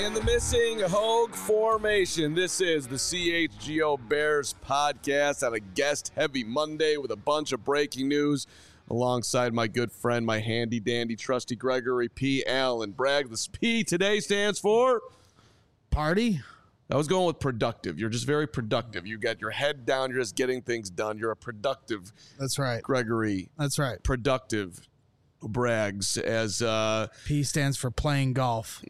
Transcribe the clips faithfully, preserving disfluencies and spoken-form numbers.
And the missing Hogue formation. This is the C H G O Bears podcast on a guest-heavy Monday with a bunch of breaking news alongside my good friend, my handy-dandy, trusty Gregory P. Allen. Bragg, this P today stands for? Party? I was going with productive. You're just very productive. You got your head down. You're just getting things done. You're a productive. That's right. Gregory. That's right. Productive Braggs as uh, P stands for playing golf.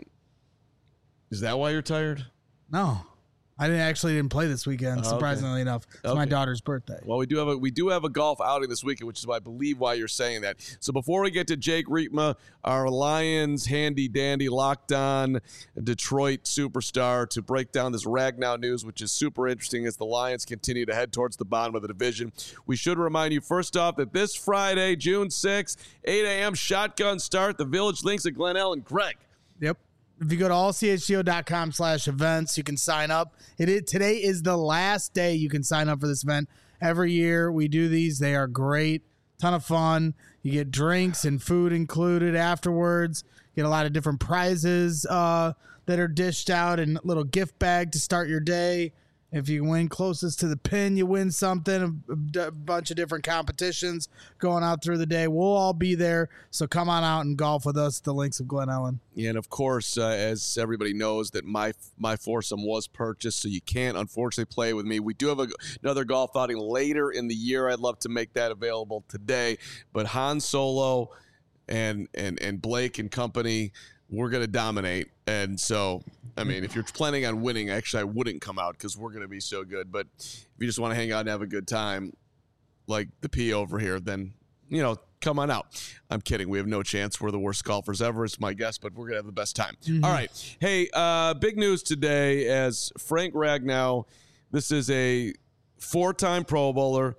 Is that why you're tired? No, I didn't actually didn't play this weekend. Oh, surprisingly okay. enough, it's okay. my daughter's birthday. Well, we do have a we do have a golf outing this weekend, which is why I believe why you're saying that. So before we get to Jake Riepma, our Lions handy dandy locked on Detroit superstar, to break down this Ragnow news, which is super interesting as the Lions continue to head towards the bottom of the division. We should remind you first off that this Friday, June sixth, eight a.m. shotgun start, the Village Links at Glen Ellen. Greg. Yep. If you go to all c h g o dot com slash events, you can sign up. It is, today is the last day you can sign up for this event. Every year we do these. They are great. Ton of fun. You get drinks and food included afterwards. You get a lot of different prizes uh, that are dished out and a little gift bag to start your day. If you win closest to the pin, you win something, a, a bunch of different competitions going out through the day. We'll all be there, so come on out and golf with us at the Links of Glen Ellen. Yeah, and of course, uh, as everybody knows, that my my foursome was purchased, so you can't, unfortunately, play with me. We do have a, another golf outing later in the year. I'd love to make that available today. But Han Solo and and and Blake and company, we're going to dominate. And so, I mean, if you're planning on winning, actually, I wouldn't come out because we're going to be so good. But if you just want to hang out and have a good time, like the P over here, then, you know, come on out. I'm kidding. We have no chance. We're the worst golfers ever. It's my guess, but we're going to have the best time. Mm-hmm. All right. Hey, uh, big news today as Frank Ragnow, this is a four-time Pro Bowler,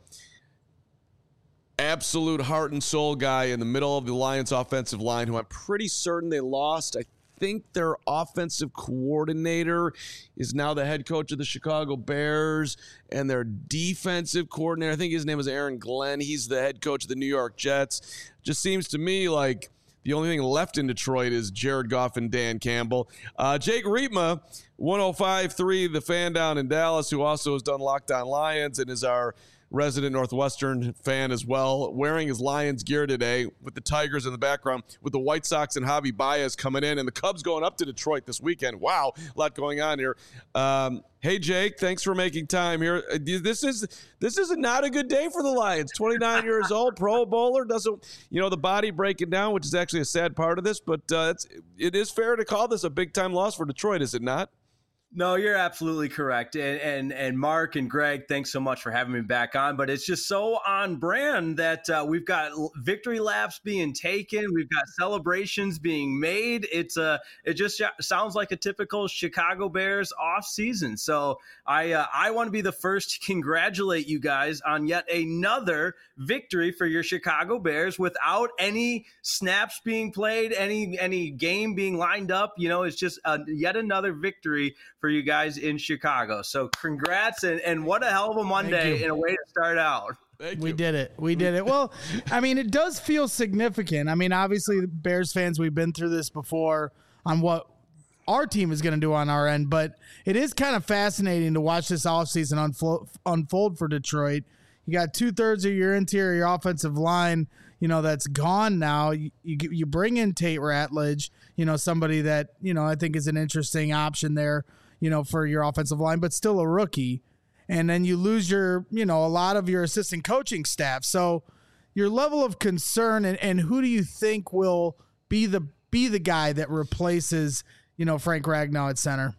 absolute heart and soul guy in the middle of the Lions offensive line, who I'm pretty certain they lost. I think their offensive coordinator is now the head coach of the Chicago Bears, and their defensive coordinator, I think his name is Aaron Glenn. He's the head coach of the New York Jets. Just seems to me like the only thing left in Detroit is Jared Goff and Dan Campbell. Uh, Jake Riepma, one oh five point three, the fan down in Dallas, who also has done Locked On Lions and is our resident Northwestern fan as well, wearing his Lions gear today with the Tigers in the background, with the White Sox and Javi Baez coming in, and the Cubs going up to Detroit this weekend. Wow, a lot going on here. Um, hey, Jake, thanks for making time here. This is this is not a good day for the Lions. twenty-nine years old, Pro Bowler, doesn't, you know, the body breaking down, which is actually a sad part of this, but uh, it's, it is fair to call this a big-time loss for Detroit, is it not? No, you're absolutely correct. And, and and Mark and Greg, thanks so much for having me back on. But it's just so on brand that uh, we've got victory laps being taken. We've got celebrations being made. It's a, it just sounds like a typical Chicago Bears off season. So I uh, I want to be the first to congratulate you guys on yet another victory for your Chicago Bears without any snaps being played, any any game being lined up. You know, it's just a, yet another victory for you guys in Chicago. So congrats, and, and what a hell of a Monday and a way to start out. Thank we you. did it. We did it. Well, I mean, it does feel significant. I mean, obviously, the Bears fans, we've been through this before on what our team is going to do on our end, but it is kind of fascinating to watch this offseason unfold, unfold for Detroit. You got two-thirds of your interior offensive line, you know, that's gone now. You, you, you bring in Tate Ratledge, you know, somebody that, you know, I think is an interesting option there, you know, for your offensive line, but still a rookie. And then you lose your, you know, a lot of your assistant coaching staff. So your level of concern and, and who do you think will be the be the guy that replaces, you know, Frank Ragnow at center?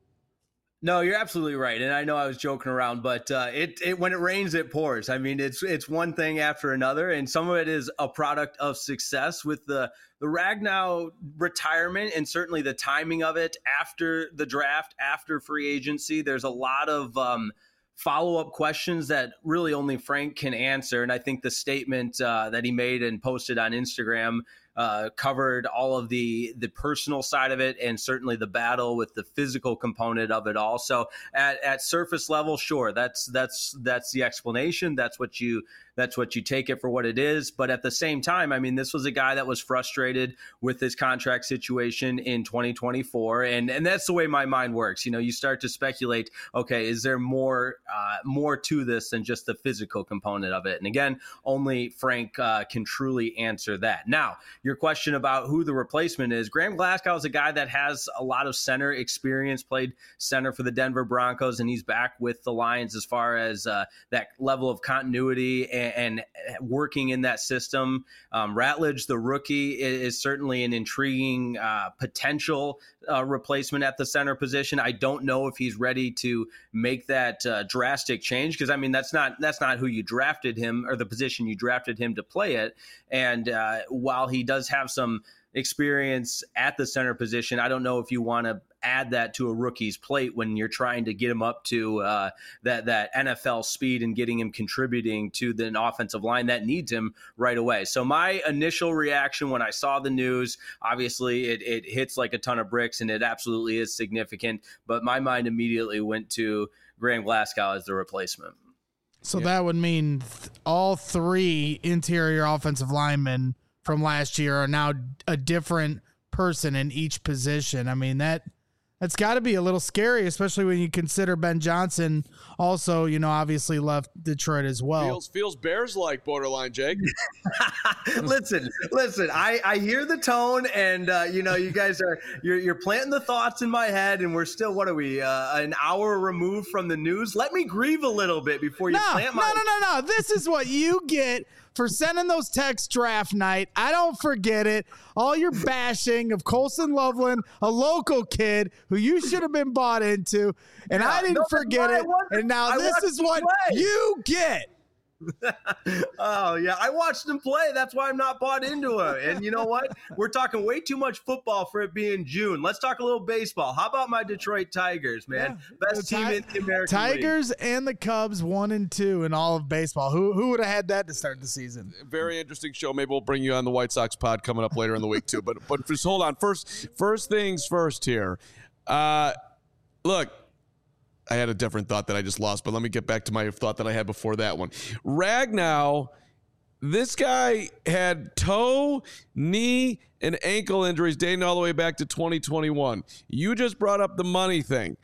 No, you're absolutely right. And I know I was joking around, but uh, it, it when it rains, it pours. I mean, it's it's one thing after another, and some of it is a product of success with the, the Ragnow retirement and certainly the timing of it after the draft, after free agency. There's a lot of um, follow-up questions that really only Frank can answer. And I think the statement uh, that he made and posted on Instagram uh, covered all of the the personal side of it, and certainly the battle with the physical component of it all. So at, at surface level, sure, that's that's that's the explanation. That's what you that's what you take it for what it is. But at the same time, I mean, this was a guy that was frustrated with his contract situation in twenty twenty-four, and and that's the way my mind works. You know, you start to speculate, okay, is there more uh, more to this than just the physical component of it? And again, only Frank uh, can truly answer that. Now, your question about who the replacement is, Graham Glasgow is a guy that has a lot of center experience, played center for the Denver Broncos, and he's back with the Lions as far as uh, that level of continuity and, and working in that system. Um, Ratledge, the rookie, is, is certainly an intriguing uh, potential uh, replacement at the center position. I don't know if he's ready to make that uh, drastic change, because I mean that's not that's not who you drafted him, or the position you drafted him to play it. And uh, while he does have some experience at the center position, I don't know if you want to add that to a rookie's plate when you're trying to get him up to uh, that that N F L speed and getting him contributing to the offensive line that needs him right away. So my initial reaction when I saw the news, obviously it, it hits like a ton of bricks, and it absolutely is significant, but my mind immediately went to Graham Glasgow as the replacement. So Yeah. that would mean th- all three interior offensive linemen from last year are now a different person in each position. I mean, that that's got to be a little scary, especially when you consider Ben Johnson also, you know, obviously left Detroit as well. Feels feels Bears like borderline, Jake. listen, listen. I, I hear the tone, and uh, you know, you guys are you're you're planting the thoughts in my head, and we're still what are we uh, an hour removed from the news? Let me grieve a little bit before you No, plant no, my. no, no, no. This is what you get for sending those texts draft night. I don't forget it. All your bashing of Colson Loveland, a local kid who you should have been bought into, and Yeah, I didn't no, forget I it. watched- And now I this watched is him what play. you get. Oh yeah, I watched him play. That's why I'm not bought into it. And you know what? We're talking way too much football for it being June. Let's talk a little baseball. How about my Detroit Tigers, man? Yeah. Best The team Ti- in the American League. Tigers and the Cubs, one and two in all of baseball. Who who would have had that to start the season? Very interesting show. Maybe we'll bring you on the White Sox pod coming up later in the week too. But but just hold on. First first things first here. Uh, look, I had a different thought that I just lost, but let me get back to my thought that I had before that one. Ragnow, this guy had toe, knee, and ankle injuries dating all the way back to twenty twenty-one. You just brought up the money thing,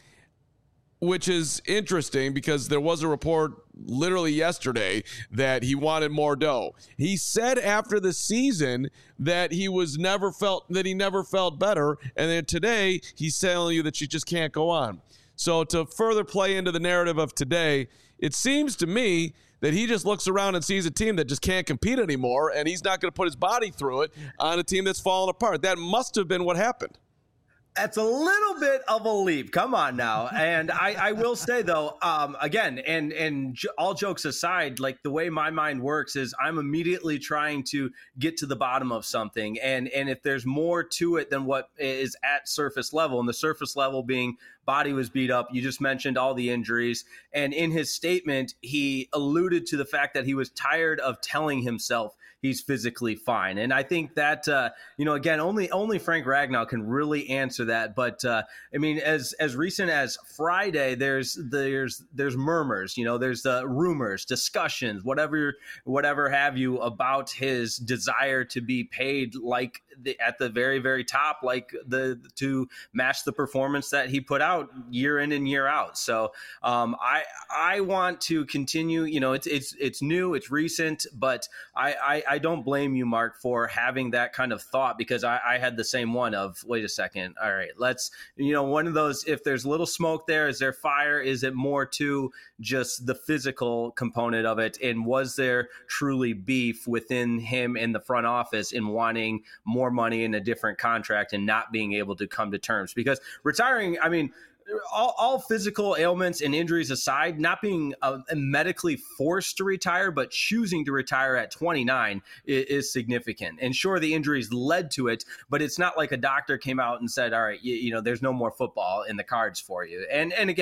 which is interesting because there was a report literally yesterday that he wanted more dough. He said after the season that he was never felt that he never felt better, and then today he's telling you that she just can't go on. So to further play into the narrative of today, it seems to me that he just looks around and sees a team that just can't compete anymore, and he's not going to put his body through it on a team that's fallen apart. That must have been what happened. That's a little bit of a leap. Come on now. And I, I will say, though, um, again, and and j- all jokes aside, like the way my mind works is I'm immediately trying to get to the bottom of something. And, and if there's more to it than what is at surface level, and the surface level being body was beat up, you just mentioned all the injuries. And in his statement, he alluded to the fact that he was tired of telling himself he's physically fine. And I think that, uh, you know, again, only only Frank Ragnow can really answer that. But uh, I mean, as as recent as Friday, there's there's there's murmurs, you know, there's uh, rumors, discussions, whatever whatever have you about his desire to be paid like the, at the very very top, like the to match the performance that he put out year in and year out. So um, I I want to continue. You know, it's it's it's new, it's recent, but I, I I don't blame you, Mark, for having that kind of thought, because I, I had the same one of, wait a second. All right, let's, you know, one of those, if there's little smoke there, is there fire? Is it more to just the physical component of it? And was there truly beef within him in the front office in wanting more money in a different contract and not being able to come to terms? Because retiring, I mean, All, all physical ailments and injuries aside, not being uh, medically forced to retire, but choosing to retire at twenty-nine is, is significant. And sure, the injuries led to it, but it's not like a doctor came out and said, all right, you, you know, there's no more football in the cards for you. And and again,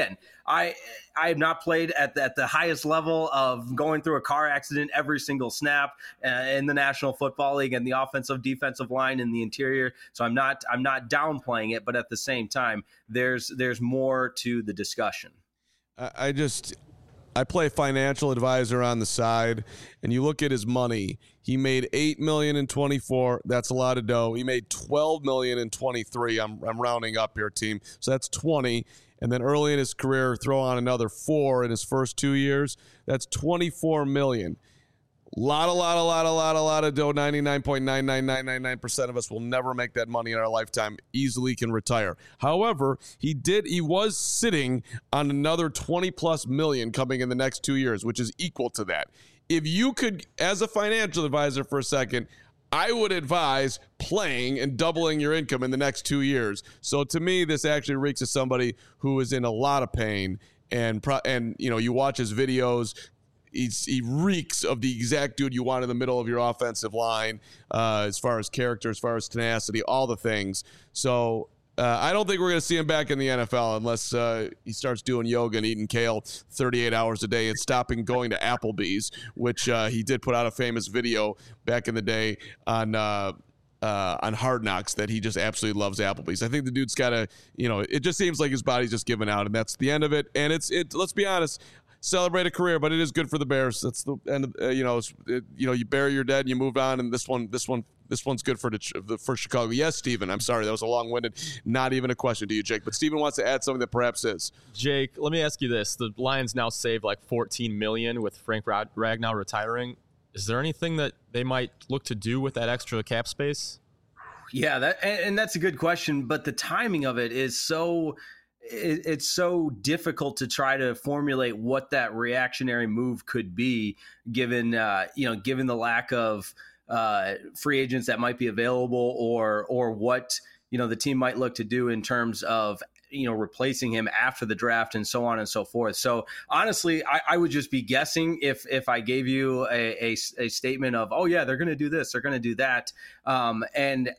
I I have not played at the, at the highest level of going through a car accident every single snap uh, in the National Football League and the offensive defensive line in the interior. So I'm not I'm not downplaying it, but at the same time, there's there's more to the discussion. I, I just I play financial advisor on the side, and you look at his money. He made eight million in twenty-four. That's a lot of dough. He made twelve million in twenty-three. I'm I'm rounding up here, team. So that's twenty. And then early in his career, throw on another four in his first two years. That's twenty-four million. Lot, a lot, a lot, a lot, a lot of dough. ninety-nine point nine nine nine nine nine percent of us will never make that money in our lifetime. Easily can retire. However, he did. He was sitting on another twenty plus million coming in the next two years, which is equal to that. If you could, as a financial advisor for a second, I would advise playing and doubling your income in the next two years. So to me, this actually reeks of somebody who is in a lot of pain. And pro- and you know, you watch his videos. He's, he reeks of the exact dude you want in the middle of your offensive line, uh, as far as character, as far as tenacity, all the things. So uh, I don't think we're going to see him back in the N F L unless uh, he starts doing yoga and eating kale thirty-eight hours a day and stopping going to Applebee's, which uh, he did put out a famous video back in the day on uh, uh, on Hard Knocks that he just absolutely loves Applebee's. I think the dude's got to, you know, it just seems like his body's just giving out, and that's the end of it. And it's it. Let's be honest. Celebrate a career, but it is good for the Bears. That's the end. Uh, you know, it, you know, you bury your dead and you move on, and this one, this one, this one's good for the for Chicago. Yes, Steven. I'm sorry, that was a long-winded, not even a question to you, Jake. But Steven wants to add something that perhaps is. Jake, let me ask you this: the Lions now saved like fourteen million dollars with Frank Ragnow retiring. Is there anything that they might look to do with that extra cap space? Yeah, that and, and that's a good question, but the timing of it is so. It's so difficult to try to formulate what that reactionary move could be, given uh, you know, given the lack of uh, free agents that might be available, or or what you know the team might look to do in terms of you know replacing him after the draft and so on and so forth. So honestly, I, I would just be guessing if if I gave you a, a, a statement of, oh yeah, they're going to do this, they're going to do that, um, and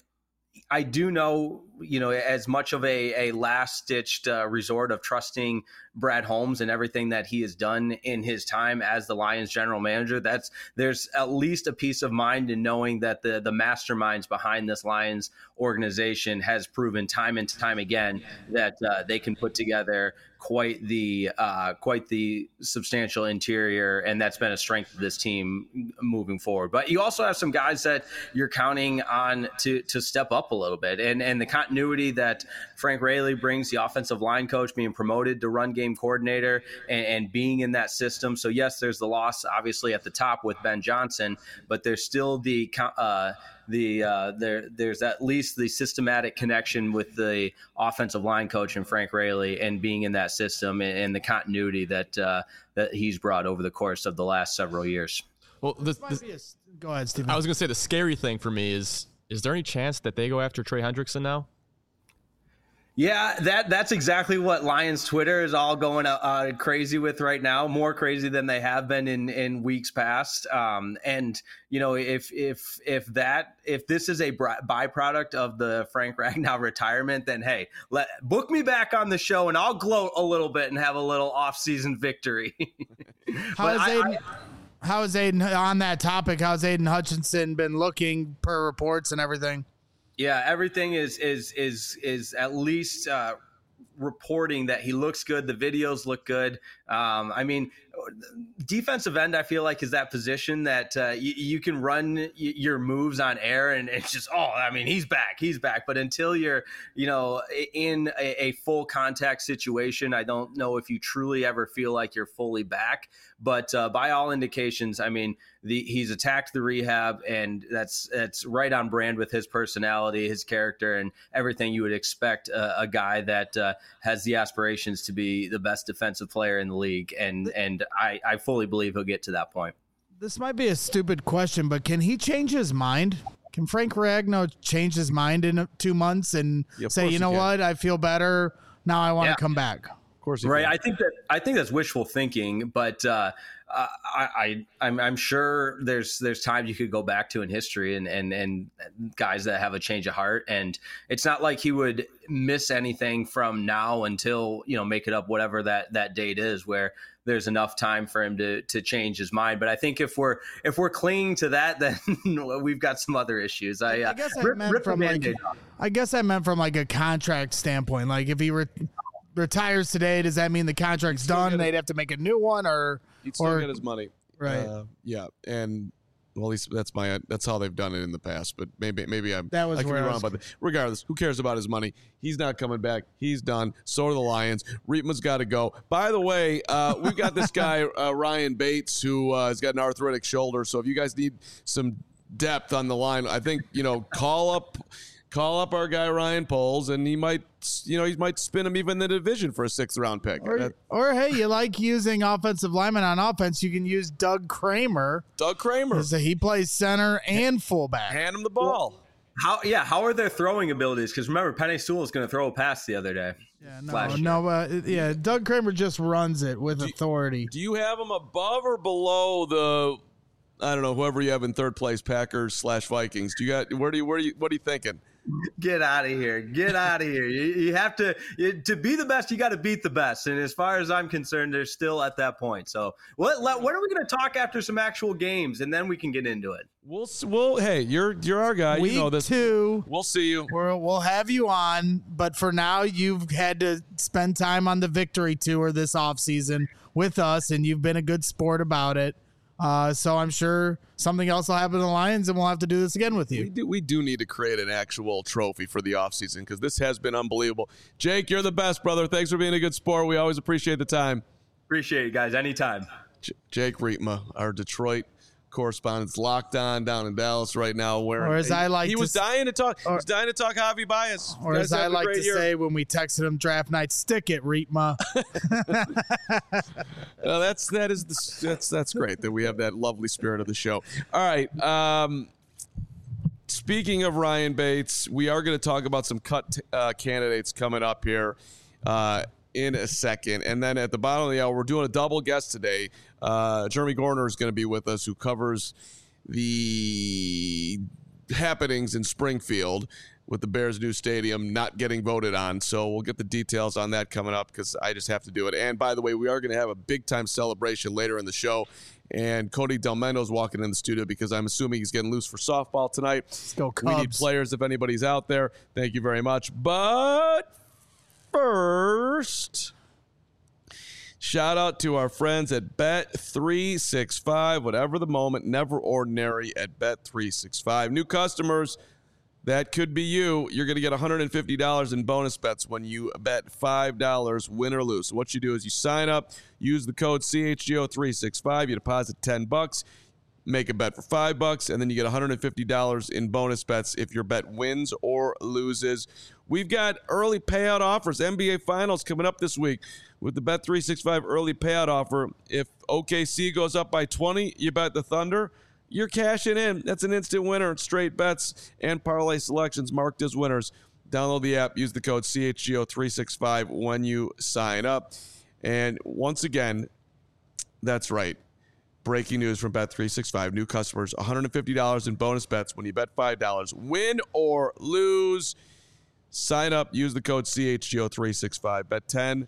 I do know, you know, as much of a, a last-ditched uh, resort of trusting Brad Holmes and everything that he has done in his time as the Lions general manager, that's there's at least a peace of mind in knowing that the the masterminds behind this Lions organization has proven time and time again that uh, they can put together quite the uh, quite the substantial interior, and that's been a strength of this team moving forward. But you also have some guys that you're counting on to to step up a little bit, and and the continuity that Frank Raley brings, the offensive line coach being promoted to run game coordinator and, and being in that system. So yes, there's the loss obviously at the top with Ben Johnson, but there's still the uh, the uh, there there's at least the systematic connection with the offensive line coach and Frank Raley, and being in that system and, and the continuity that uh, that he's brought over the course of the last several years. Well, this, this, a, go ahead, Stephen. I was going to say the scary thing for me is is there any chance that they go after Trey Hendrickson now? Yeah, that that's exactly what Lions Twitter is all going uh, crazy with right now, more crazy than they have been in, in weeks past. Um, and you know, if if if that if this is a byproduct of the Frank Ragnow retirement, then hey, let book me back on the show and I'll gloat a little bit and have a little off-season victory. How is Aiden? I, how is Aiden on that topic? How's Aiden Hutchinson been looking per reports and everything? Yeah, everything is is is is at least uh, reporting that he looks good. The videos look good. Um, I mean, defensive end, I feel like, is that position that uh, you, you can run y- your moves on air and it's just, oh, I mean, he's back, he's back. But until you're, you know, in a, a full contact situation, I don't know if you truly ever feel like you're fully back. But uh, by all indications, I mean, the, he's attacked the rehab, and that's that's right on brand with his personality, his character, and everything you would expect a, a guy that uh, has the aspirations to be the best defensive player in the league. And and I, I fully believe he'll get to that point. This might be a stupid question, but can he change his mind? Can Frank Ragnow change his mind in two months and yeah, say, you know what, I feel better, now I want to yeah. come back? course, he right. can. I think that I think that's wishful thinking, but uh, I, I I'm, I'm sure there's there's times you could go back to in history and and and guys that have a change of heart, and it's not like he would miss anything from now until, you know, make it up whatever that that date is, where there's enough time for him to to change his mind. But I think if we're if we're clinging to that, then we've got some other issues. I, uh, I guess I rip, meant rip from the like Band-Aid off. I guess I meant from like a contract standpoint. Like if he re- retires today, does that mean the contract's done? get They'd have to make a new one, or He'd still or get his money. right? Uh, yeah, and well, at least that's my that's how they've done it in the past. But maybe maybe I'm That was I could where be I wrong was- about that. Regardless, who cares about his money? He's not coming back. He's done. So are the Lions. Reitman's got to go. By the way, uh, we've got this guy uh, Ryan Bates who uh, has got an arthritic shoulder. So if you guys need some depth on the line, I think you know call up. Call up our guy Ryan Poles, and he might, you know, he might spin him even in the division for a sixth round pick. Or, That- or hey, you like using offensive linemen on offense? You can use Doug Kramer. Doug Kramer, So he plays center and fullback. hand him the ball. How yeah? How are their throwing abilities? Because remember, Penei Sewell is going to throw a pass the other day. Yeah, no, last year. no, uh, yeah. Doug Kramer just runs it with authority. Do you have him above or below the? I don't know. Whoever you have in third place, Packers slash Vikings. Do you got? Where do you? Where do you? What are you thinking? Get out of here! Get out of here! You, you have to you, to be the best. You got to beat the best. And as far as I'm concerned, they're still at that point. So what? Let, when are we going to talk after some actual games, and then we can get into it? We'll. s- We'll. Hey, you're you're our guy. Week you know this. two, We'll see you. we'll, we'll have you on. But for now, you've had to spend time on the victory tour this offseason with us, and you've been a good sport about it. Uh, so I'm sure something else will happen to the Lions, and we'll have to do this again with We you. do. We do need to create an actual trophy for the offseason because this has been unbelievable. Jake, you're the best, brother. Thanks for being a good sport. We always appreciate the time. Appreciate it, guys. Anytime. J- Jake Reitma, our Detroit correspondent's locked on down in Dallas right now. Wearing, Or as I like he to was s- dying to talk. he or- was dying to talk Javi Baez. Or Guys as I have a like great to year. say when we texted him draft night, stick it, Reitma. Uh, that's that is the, that's that's great that we have that lovely spirit of the show. All right. Um, speaking of Ryan Bates, we are going to talk about some cut uh, candidates coming up here uh, in a second, and then at the bottom of the hour, we're doing a double guest today. Uh, Jeremy Gorner is going to be with us, who covers the happenings in Springfield with the Bears' new stadium not getting voted on. So we'll get the details on that coming up because I just have to do it. And by the way, we are going to have a big-time celebration later in the show. And Cody Del Mendo's walking in the studio because I'm assuming he's getting loose for softball tonight. Let's go We need Cubs. players if anybody's out there. Thank you very much. But first, shout out to our friends at Bet three sixty-five. Whatever the moment, never ordinary at Bet three sixty-five. New customers, that could be you. You're going to get one hundred fifty dollars in bonus bets when you bet five dollars, win or lose. So what you do is you sign up, use the code C H G O three sixty-five, you deposit ten bucks, make a bet for five bucks, and then you get one hundred fifty dollars in bonus bets if your bet wins or loses. We've got early payout offers, N B A Finals coming up this week with the Bet three sixty-five early payout offer. If O K C goes up by twenty, you bet the Thunder. You're cashing in. That's an instant winner. Straight bets and parlay selections marked as winners. Download the app. Use the code C H G O three sixty-five when you sign up. And once again, that's right. Breaking news from Bet three sixty-five. New customers, one hundred fifty dollars in bonus bets when you bet five dollars. Win or lose. Sign up. Use the code C H G O three sixty-five. Bet ten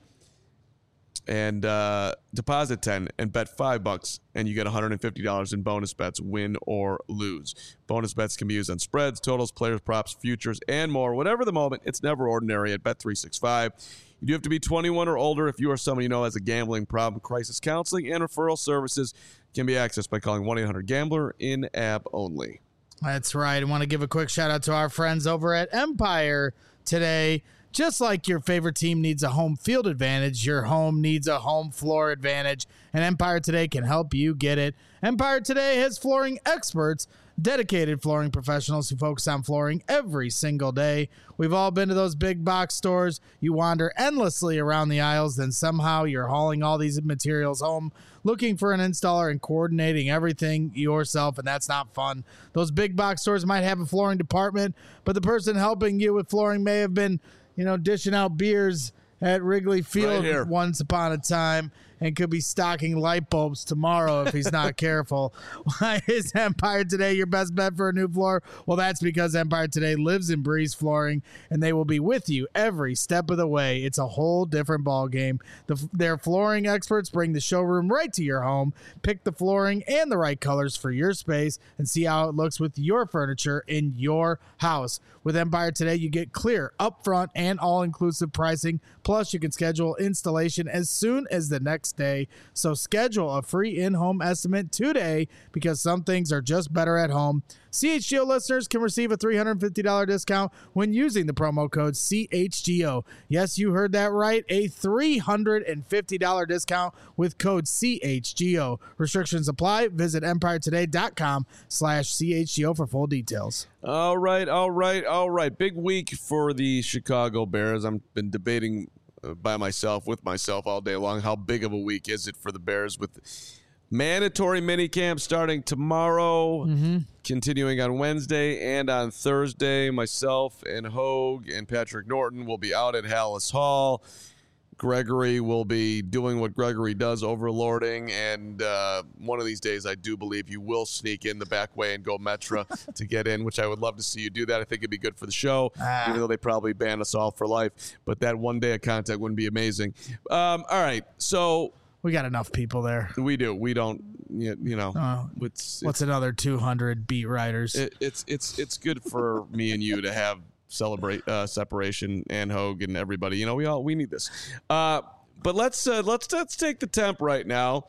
and uh, deposit ten and bet five bucks, and you get one hundred fifty dollars in bonus bets, win or lose. Bonus bets can be used on spreads, totals, players, props, futures, and more. Whatever the moment, it's never ordinary at Bet three sixty-five. You do have to be twenty-one or older if you or someone you know has a gambling problem. Crisis counseling and referral services can be accessed by calling one eight hundred gambler in app only. That's right. I want to give a quick shout out to our friends over at Empire today. Just like your favorite team needs a home field advantage, your home needs a home floor advantage, and Empire Today can help you get it. Empire Today has flooring experts, dedicated flooring professionals who focus on flooring every single day. We've all been to those big box stores. You wander endlessly around the aisles, then somehow you're hauling all these materials home, looking for an installer and coordinating everything yourself, and that's not fun. Those big box stores might have a flooring department, but the person helping you with flooring may have been, you know, dishing out beers at Wrigley Field Right here. once upon a time and could be stocking light bulbs tomorrow if he's not careful. Why is Empire Today your best bet for a new floor? Well, that's because Empire Today lives in Breeze Flooring, and they will be with you every step of the way. It's a whole different ball game. The, their flooring experts bring the showroom right to your home. Pick the flooring and the right colors for your space and see how it looks with your furniture in your house. With Empire Today, you get clear, upfront, and all-inclusive pricing. Plus, you can schedule installation as soon as the next day. So schedule a free in-home estimate today because some things are just better at home. C H G O listeners can receive a three hundred fifty dollars discount when using the promo code C H G O. Yes, you heard that right. A three hundred fifty dollars discount with code C H G O. Restrictions apply. Visit empiretoday.com slash CHGO for full details. All right, all right, all right. Big week for the Chicago Bears. I've been debating uh, by myself, with myself all day long, how big of a week is it for the Bears with mandatory minicamp starting tomorrow, mm-hmm. continuing on Wednesday and on Thursday. Myself and Hogue and Patrick Norton will be out at Hallis Hall. Gregory will be doing what Gregory does, overlording, and uh, one of these days I do believe you will sneak in the back way and go Metra to get in, which I would love to see you do that. I think it'd be good for the show, ah. even though they probably ban us all for life. But that one day of contact wouldn't be amazing. Um, all right, so... We got enough people there. We do. We don't, you know. Uh, it's, what's it's, another two hundred beat writers? It, it's it's it's good for me and you to have celebrate uh, separation and Hogue and everybody. You know, we all we need this. Uh, but let's uh, let's let's take the temp right now.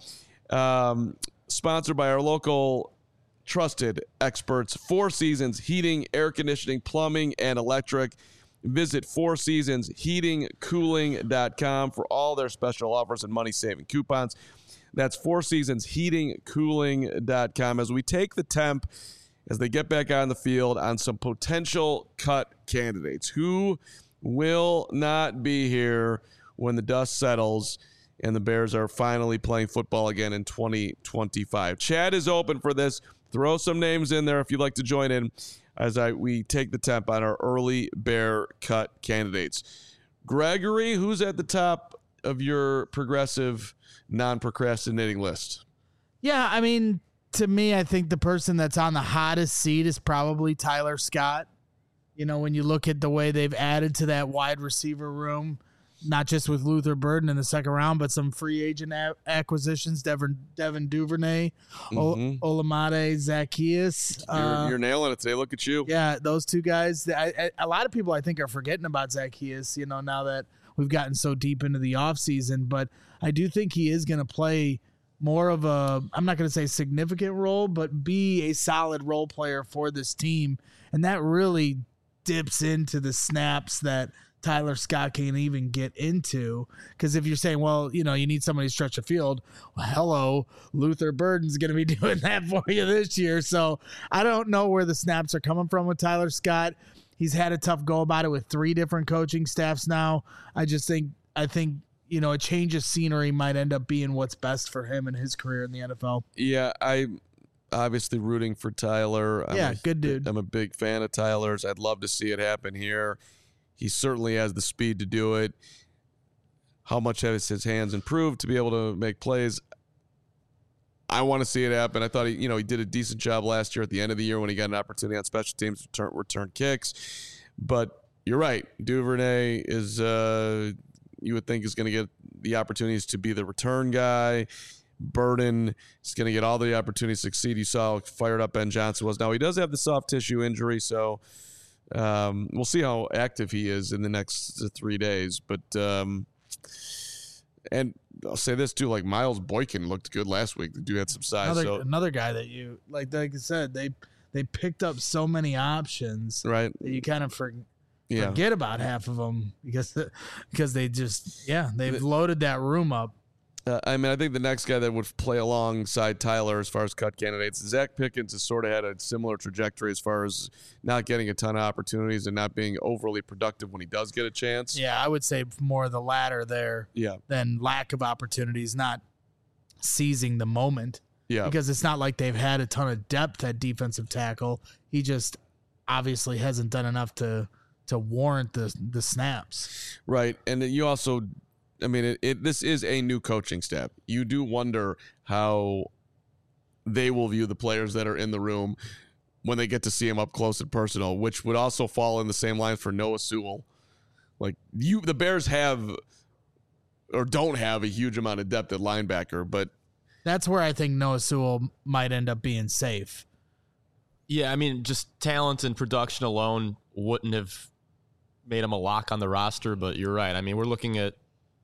Um, sponsored by our local trusted experts, Four Seasons Heating, Air Conditioning, Plumbing, and Electric. Visit four seasons heating cooling dot com for all their special offers and money-saving coupons. That's four seasons heating cooling dot com. As we take the temp, as they get back on the field, on some potential cut candidates who will not be here when the dust settles and the Bears are finally playing football again in twenty twenty-five. Chad is open for this. Throw some names in there if you'd like to join in as I we take the temp on our early Bear cut candidates. Gregory, who's at the top of your progressive, non-procrastinating list? Yeah, I mean, to me, I think the person that's on the hottest seat is probably Tyler Scott. You know, when you look at the way they've added to that wide receiver room, not just with Luther Burden in the second round, but some free agent a- acquisitions, Devin, Devin Duvernay, mm-hmm. o- Olamide Zaccheaus. You're, uh, you're nailing it today. Look at you. Yeah, those two guys. I, I, a lot of people, I think, are forgetting about Zaccheaus, you know, now that we've gotten so deep into the offseason. But I do think he is going to play more of a, I'm not going to say significant role, but be a solid role player for this team. And that really dips into the snaps that Tyler Scott can't even get into, because if you're saying, well, you know, you need somebody to stretch the field, well, hello, Luther Burden's going to be doing that for you this year. So I don't know where the snaps are coming from with Tyler Scott. He's had a tough go about it with three different coaching staffs now. I just think, I think, you know, a change of scenery might end up being what's best for him and his career in the N F L. Yeah, I'm obviously rooting for Tyler. I'm yeah, a, good dude. I'm a big fan of Tyler's. I'd love to see it happen here. He certainly has the speed to do it. How much has his hands improved to be able to make plays? I want to see it happen. I thought he, you know, he did a decent job last year at the end of the year when he got an opportunity on special teams to return, return kicks. But you're right. Duvernay is, uh, you would think, is going to get the opportunities to be the return guy. Burden is going to get all the opportunities to succeed. You saw how fired up Ben Johnson was. Now, he does have the soft tissue injury, so Um, we'll see how active he is in the next three days. But, um, and I'll say this too, like Miles Boykin looked good last week. The dude had some size. Another, so. another guy that you, like, like I said, they, they picked up so many options, right? That you kind of for, yeah. forget about half of them because, because they just, yeah, they've the, loaded that room up. Uh, I mean, I think the next guy that would play alongside Tyler as far as cut candidates, Zach Pickens has sort of had a similar trajectory as far as not getting a ton of opportunities and not being overly productive when he does get a chance. Yeah, I would say more the latter there yeah. than lack of opportunities, not seizing the moment. Yeah. Because it's not like they've had a ton of depth at defensive tackle. He just obviously hasn't done enough to to warrant the the snaps. Right. And you also, I mean, it, it this is a new coaching staff. You do wonder how they will view the players that are in the room when they get to see him up close and personal, which would also fall in the same line for Noah Sewell. Like you, the Bears have or don't have a huge amount of depth at linebacker, but that's where I think Noah Sewell might end up being safe. Yeah, I mean, just talent and production alone wouldn't have made him a lock on the roster, but you're right. I mean, we're looking at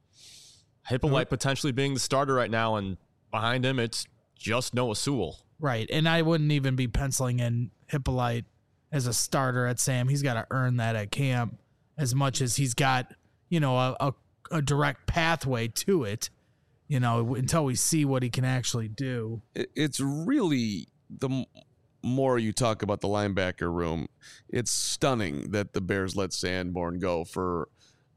Hippolyte potentially being the starter right now, and behind him, it's just Noah Sewell. Right, and I wouldn't even be penciling in Hippolyte as a starter at Sam. He's got to earn that at camp as much as he's got, you know, a, a, a direct pathway to it, you know, until we see what he can actually do. It's really, the more you talk about the linebacker room, it's stunning that the Bears let Sanborn go for,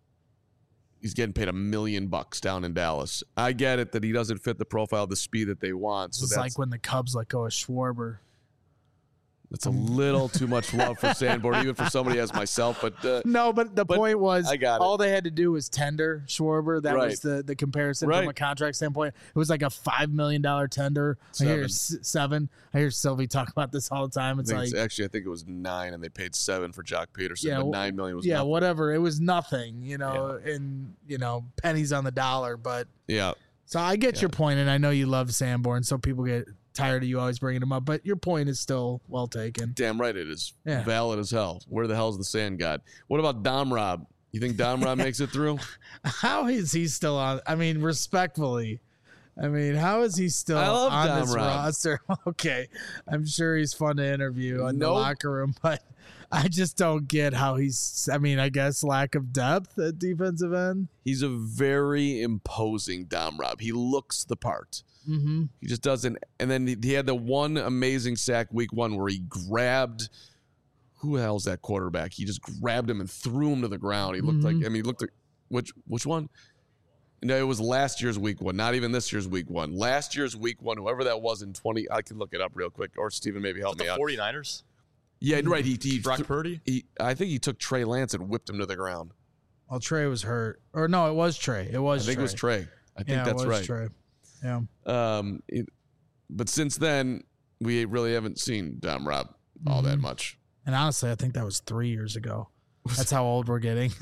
he's getting paid a million bucks down in Dallas. I get it that he doesn't fit the profile, the speed that they want. So it's that's like when the Cubs let go of Schwarber. That's a little too much love for Sanborn, even for somebody as myself. But uh, no, but the but point was, I got it. all they had to do was tender Schwarber. That Right. was the, the comparison Right. from a contract standpoint. It was like a five million dollar tender. I hear Seven. s- seven. I hear Sylvie talk about this all the time. I It's think like, it's, actually, I think it was nine, and they paid seven for Jock Peterson, Yeah, but well, nine million was yeah, nothing. whatever. It was nothing, you know, and you know, pennies on the dollar. But Yeah, so I get Yeah. your point, and I know you love Sanborn, so people get tired of you always bringing him up. But your point is still well taken. damn right it is. Yeah. Valid as hell. Where the hell's the sand god? What about Dom Rob? You think Dom Rob makes it through? How is he still on? I mean, respectfully, I mean, how is he still I love on Dom this Rob. roster? Okay, I'm sure he's fun to interview in the Nope. locker room, but I just don't get how he's. I mean, I guess lack of depth at defensive end. He's a very imposing Dom Rob. He looks the part. Mm-hmm. He just doesn't. And then he, he had the one amazing sack week one where he grabbed, who the hell's that quarterback? He just grabbed him and threw him to the ground. He looked Mhm. like, I mean, he looked like, which, which one? No, it was last year's week one, not even this year's week one. Last year's week one, whoever that was in twenty, I can look it up real quick. Or Steven, maybe help The me out. 49ers? Yeah, right. He, he, Brock Purdy? he, I think he took Trey Lance and whipped him to the ground. Well, Trey was hurt, or no, it was Trey. It was. I think Trey. it was Trey. I think yeah, that's it was right. Trey. Yeah. Um, it, but since then, we really haven't seen Dom Rob all that Mhm. much. And honestly, I think that was three years ago. That's how old we're getting.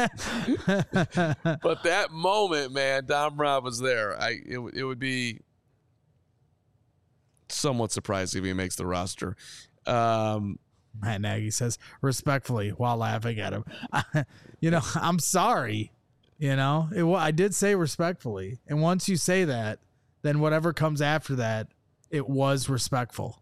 But that moment, man, Dom Rob was there. I it, it would be somewhat surprising if he makes the roster. Um, Matt Nagy says respectfully while laughing at him. You know, I'm sorry. You know, it, wa- I did say respectfully. And once you say that, then whatever comes after that, it was respectful.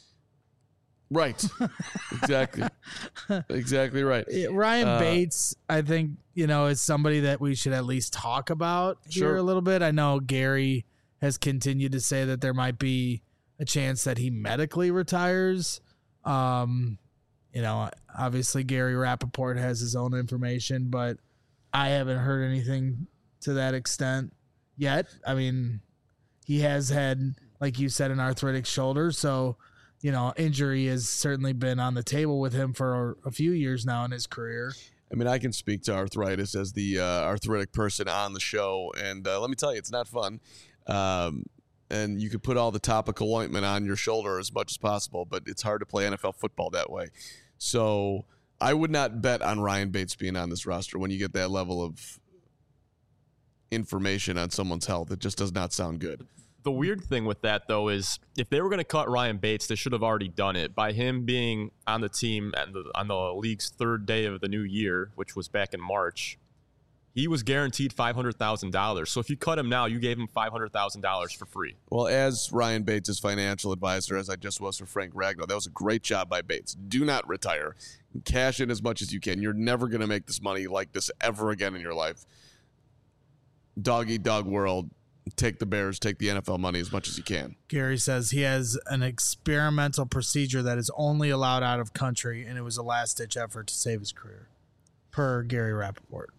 right. Exactly. Exactly right. It- Ryan Uh, Bates, I think, you know, is somebody that we should at least talk about Sure. here a little bit. I know Gary has continued to say that there might be a chance that he medically retires. Um, you know, obviously Gary Rappaport has his own information, but I haven't heard anything to that extent yet. I mean, he has had, like you said, an arthritic shoulder. So, you know, injury has certainly been on the table with him for a few years now in his career. I mean, I can speak to arthritis as the uh, arthritic person on the show, and uh, let me tell you, it's not fun. Um, and you could put all the topical ointment on your shoulder as much as possible, but it's hard to play N F L football that way. So I would not bet on Ryan Bates being on this roster when you get that level of information on someone's health. It just does not sound good. The weird thing with that, though, is if they were going to cut Ryan Bates, they should have already done it. By him being on the team at the, on the league's third day of the new year, which was back in March, he was guaranteed five hundred thousand dollars. So if you cut him now, you gave him five hundred thousand dollars for free. Well, as Ryan Bates' financial advisor, as I just was for Frank Ragnow, that was a great job by Bates. Do not retire. Cash in as much as you can. You're never going to make this money like this ever again in your life. Dog eat dog world. Take the Bears, take the N F L money as much as you can. Gary says he has an experimental procedure that is only allowed out of country, and it was a last-ditch effort to save his career, per Gary Rappaport.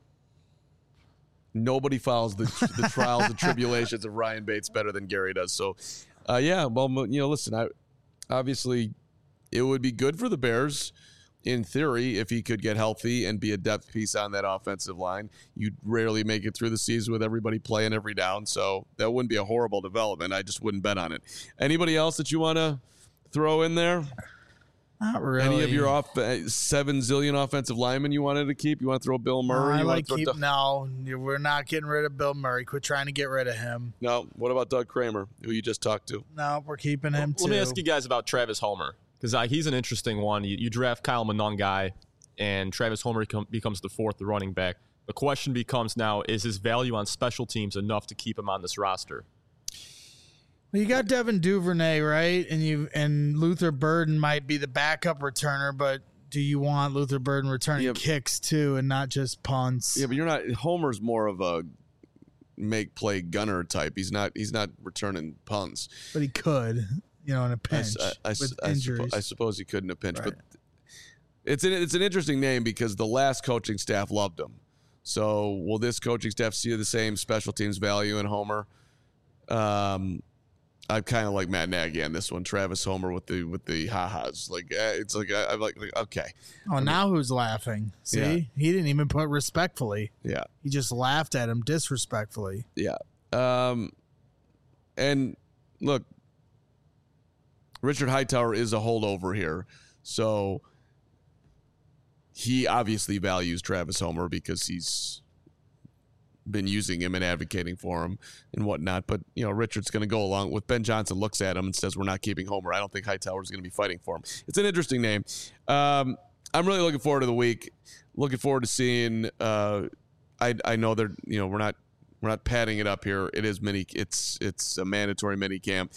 Nobody follows the, the trials and tribulations of Ryan Bates better than Gary does. So, uh, yeah, well, you know, listen, I obviously it would be good for the Bears in theory, if he could get healthy and be a depth piece on that offensive line, you'd rarely make it through the season with everybody playing every down. So that wouldn't be a horrible development. I just wouldn't bet on it. Anybody else that you want to throw in there? Not really. Any of your off uh, seven zillion offensive linemen you wanted to keep? You want to throw Bill Murray? No, I you like want to throw keep, Doug- no, we're not getting rid of Bill Murray. Quit trying to get rid of him. No. What about Doug Kramer, who you just talked to? No, we're keeping him Let too. me ask you guys about Travis Homer, because uh, he's an interesting one. You, you draft Kyle Monangai, and Travis Homer com- becomes the fourth running back. The question becomes now, is his value on special teams enough to keep him on this roster? Well, you got Devin Duvernay, right? And you and Luther Burden might be the backup returner, but do you want Luther Burden returning Yeah. kicks too and not just punts? Yeah, but you're not. Homer's more of a make play gunner type. He's not. He's not returning punts. But he could, you know, in a I, pinch I, I, with I, injuries. suppo- I suppose he could in a pinch, Right. but it's an it's an interesting name because the last coaching staff loved him. So will this coaching staff see the same special teams value in Homer? Um, I'm kind of like Matt Nagy on this one. Travis Homer with the with the ha-has. Like eh, it's like I, I'm like, like okay, oh, now who's laughing? See, Yeah. he didn't even put respectfully. yeah. He just laughed at him disrespectfully. Yeah. Um, and look, Richard Hightower is a holdover here. So he obviously values Travis Homer because he's been using him and advocating for him and whatnot. But, you know, Richard's going to go along with Ben Johnson, looks at him and says, we're not keeping Homer. I don't think Hightower's going to be fighting for him. It's an interesting name. Um, I'm really looking forward to the week. Looking forward to seeing, uh, I, I know they're, you know, we're not, We're not padding it up here. It is mini. It's it's a mandatory mini camp.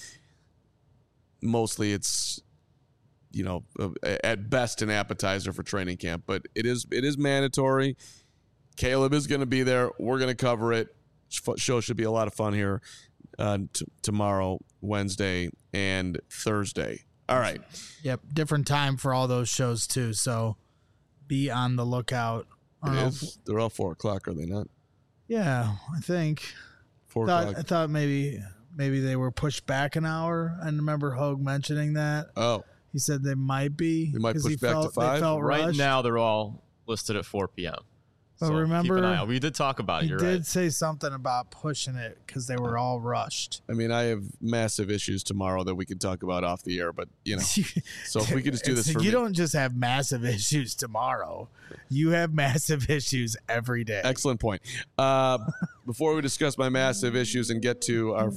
Mostly, it's you know at best an appetizer for training camp, but it is it is mandatory. Caleb is going to be there. We're going to cover it. Show should be a lot of fun here uh, t- tomorrow, Wednesday, and Thursday. All right. Yep, different time for all those shows too. So be on the lookout. I don't It know is. if- They're all four o'clock, are they not? yeah, I think. Four Thought, o'clock. I thought maybe maybe they were pushed back an hour. I remember Hogue mentioning that. Oh, He said they might be. They might 'cause push he back to felt, five? They felt Right rushed. now, they're all listed at four p.m. But so remember, keep an eye out. We did talk about it. he You're did right. say something about pushing it because they were all rushed. I mean, I have massive issues tomorrow that we can talk about off the air, but you know. So if we could just do this It's- for you me. don't just have massive issues tomorrow. You have massive issues every day. Excellent point. Uh, before we discuss my massive issues and get to our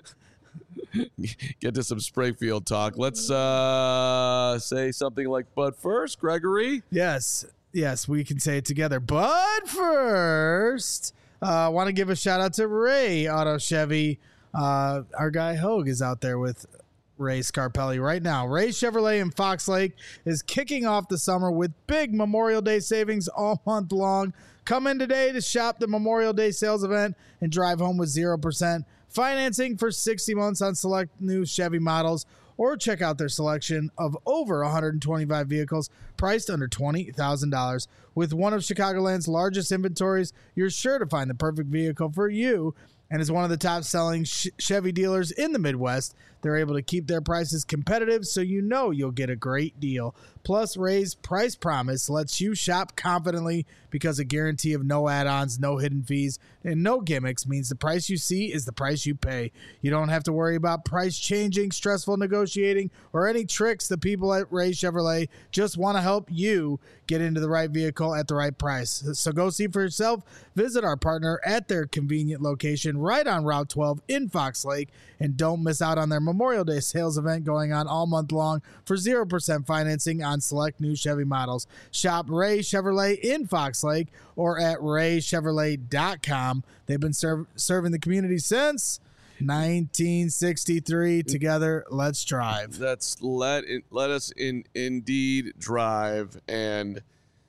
get to some Springfield talk, let's uh, say something like, but first, Gregory. Yes, yes, we can say it together. But first, I uh, want to give a shout out to Ray Auto Chevy. Uh, our guy Hogue is out there with Ray Scarpelli right now. Ray Chevrolet in Fox Lake is kicking off the summer with big Memorial Day savings all month long. Come in today to shop the Memorial Day sales event and drive home with zero percent financing for sixty months on select new Chevy models, or check out their selection of over one hundred twenty-five vehicles priced under twenty thousand dollars. With one of Chicagoland's largest inventories, you're sure to find the perfect vehicle for you. And as one of the top-selling Chevy dealers in the Midwest, they're able to keep their prices competitive, so you know you'll get a great deal. Plus, Ray's Price Promise lets you shop confidently because a guarantee of no add-ons, no hidden fees, and no gimmicks means the price you see is the price you pay. You don't have to worry about price changing, stressful negotiating, or any tricks. The people at Ray Chevrolet just want to help you get into the right vehicle at the right price. So go see for yourself. Visit our partner at their convenient location right on Route twelve in Fox Lake, and don't miss out on their Memorial Day sales event going on all month long for zero percent financing on select new Chevy models. Shop Ray Chevrolet in Fox Lake or at ray chevrolet dot com. They've been serv- serving the community since nineteen sixty-three. Together, let's drive. Let's let it, let us in indeed drive. And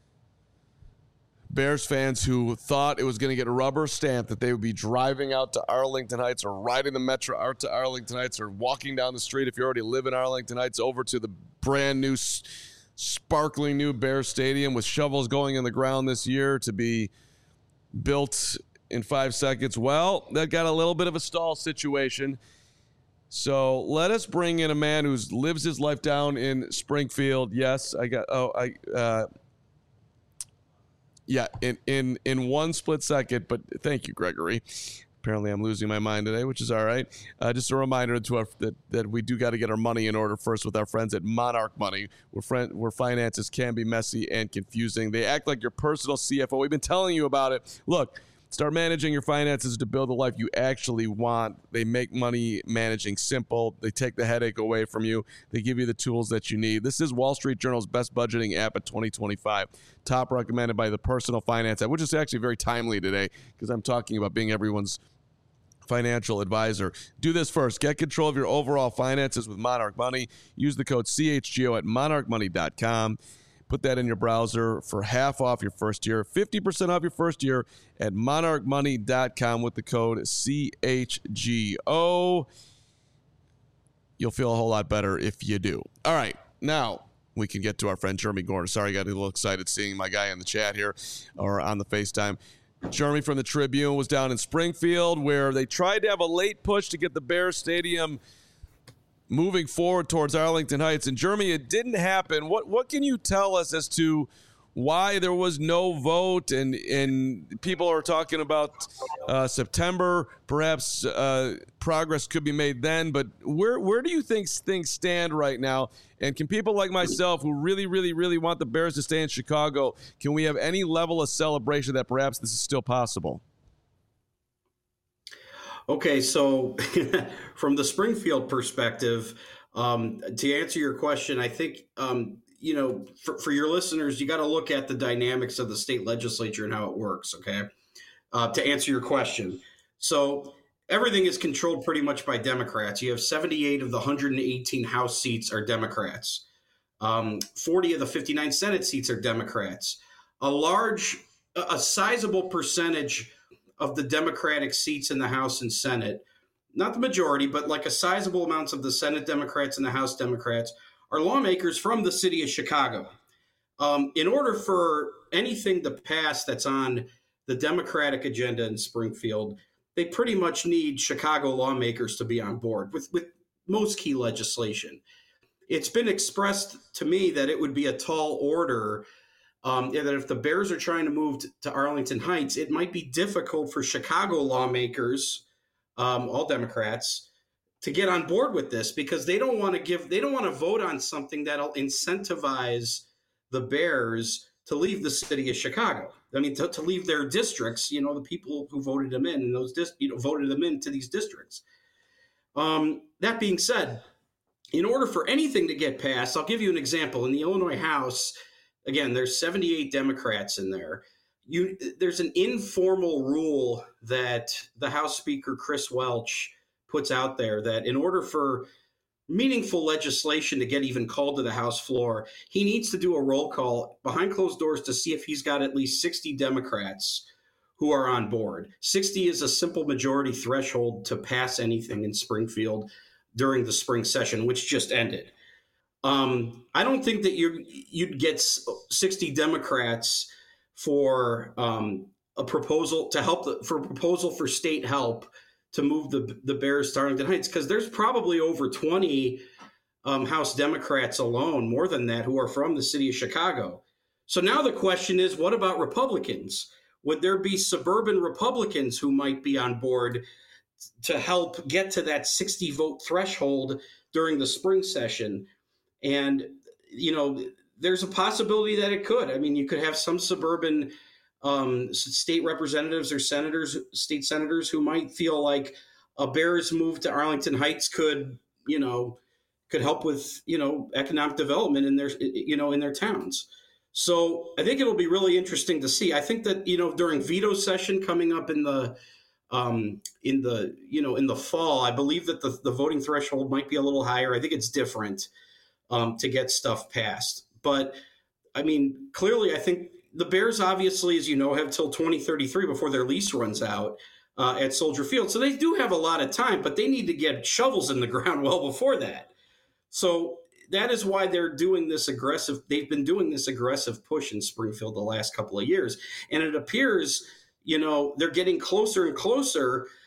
Bears fans who thought it was going to get a rubber stamp that they would be driving out to Arlington Heights or riding the Metro out to Arlington Heights or walking down the street if you already live in Arlington Heights over to the brand new s- sparkling new Bear Stadium with shovels going in the ground this year to be built in five seconds. Well, that got a little bit of a stall situation. So let us bring in a man who lives his life down in Springfield. Yes, I got. Oh, I. Uh, yeah, in in in one split second. But thank you, Gregory. Apparently, I'm losing my mind today, which is all right. Uh, just a reminder to our, that that we do got to get our money in order first with our friends at Monarch Money, where friend where finances can be messy and confusing. They act like your personal C F O. We've been telling you about it. Look. Start managing your finances to build the life you actually want. They make money managing simple. They take the headache away from you. They give you the tools that you need. This is Wall Street Journal's best budgeting app of twenty twenty-five. Top recommended by the Personal Finance app, which is actually very timely today because I'm talking about being everyone's financial advisor. Do this first. Get control of your overall finances with Monarch Money. Use the code C H G O at monarch money dot com. Put that in your browser for half off your first year, fifty percent off your first year at monarch money dot com with the code C H G O. You'll feel a whole lot better if you do. All right, now we can get to our friend Jeremy Gordon. Sorry, I got a little excited seeing my guy in the chat here or on the FaceTime. Jeremy from the Tribune was down in Springfield where they tried to have a late push to get the Bears Stadium moving forward towards Arlington Heights. And Jeremy, it didn't happen. What what can you tell us as to why there was no vote? And and people are talking about uh, September. Perhaps uh, progress could be made then. But where where do you think things stand right now? And can people like myself who really, really, really want the Bears to stay in Chicago, can we have any level of celebration that perhaps this is still possible? Okay, so from the Springfield perspective, um, to answer your question, I think, um, you know, for, for your listeners, you got to look at the dynamics of the state legislature and how it works, okay, uh, to answer your question. So everything is controlled pretty much by Democrats. You have seventy-eight of the one hundred eighteen House seats are Democrats. Um, forty of the fifty-nine Senate seats are Democrats. A large, a sizable percentage of the Democratic seats in the House and Senate, not the majority, but like a sizable amounts of the Senate Democrats and the House Democrats are lawmakers from the city of Chicago. Um, in order for anything to pass that's on the Democratic agenda in Springfield, they pretty much need Chicago lawmakers to be on board with, with most key legislation. It's been expressed to me that it would be a tall order Um, yeah, that if the Bears are trying to move to, to Arlington Heights, it might be difficult for Chicago lawmakers, um, all Democrats, to get on board with this because they don't want to give, they don't want to vote on something that'll incentivize the Bears to leave the city of Chicago. I mean, to, to leave their districts, you know, the people who voted them in and those, dis, you know, voted them into these districts. Um, that being said, in order for anything to get passed, I'll give you an example. In the Illinois House, again, there's seventy-eight Democrats in there. You, there's an informal rule that the House Speaker, Chris Welch, puts out there that in order for meaningful legislation to get even called to the House floor, he needs to do a roll call behind closed doors to see if he's got at least sixty Democrats who are on board. sixty is a simple majority threshold to pass anything in Springfield during the spring session, which just ended. Um, I don't think that you you'd get sixty Democrats for um, a proposal to help the, for a proposal for state help to move the the Bears to Arlington Heights, because there's probably over twenty um, House Democrats alone, more than that, who are from the city of Chicago. So now the question is, what about Republicans? Would there be suburban Republicans who might be on board to help get to that sixty vote threshold during the spring session? And, you know, there's a possibility that it could. I mean, you could have some suburban um, state representatives or senators, state senators who might feel like a Bears move to Arlington Heights could, you know, could help with, you know, economic development in their, you know, in their towns. So I think it'll be really interesting to see. I think that, you know, during veto session coming up in the um, in the, you know, in the fall, I believe that the, the voting threshold might be a little higher. I think it's different. Um, to get stuff passed. But, I mean, clearly, I think the Bears, obviously, as you know, have till twenty thirty-three before their lease runs out uh, at Soldier Field. So they do have a lot of time, but they need to get shovels in the ground well before that. So that is why they're doing this aggressive. They've been doing this aggressive push in Springfield the last couple of years. And it appears, you know, they're getting closer and closer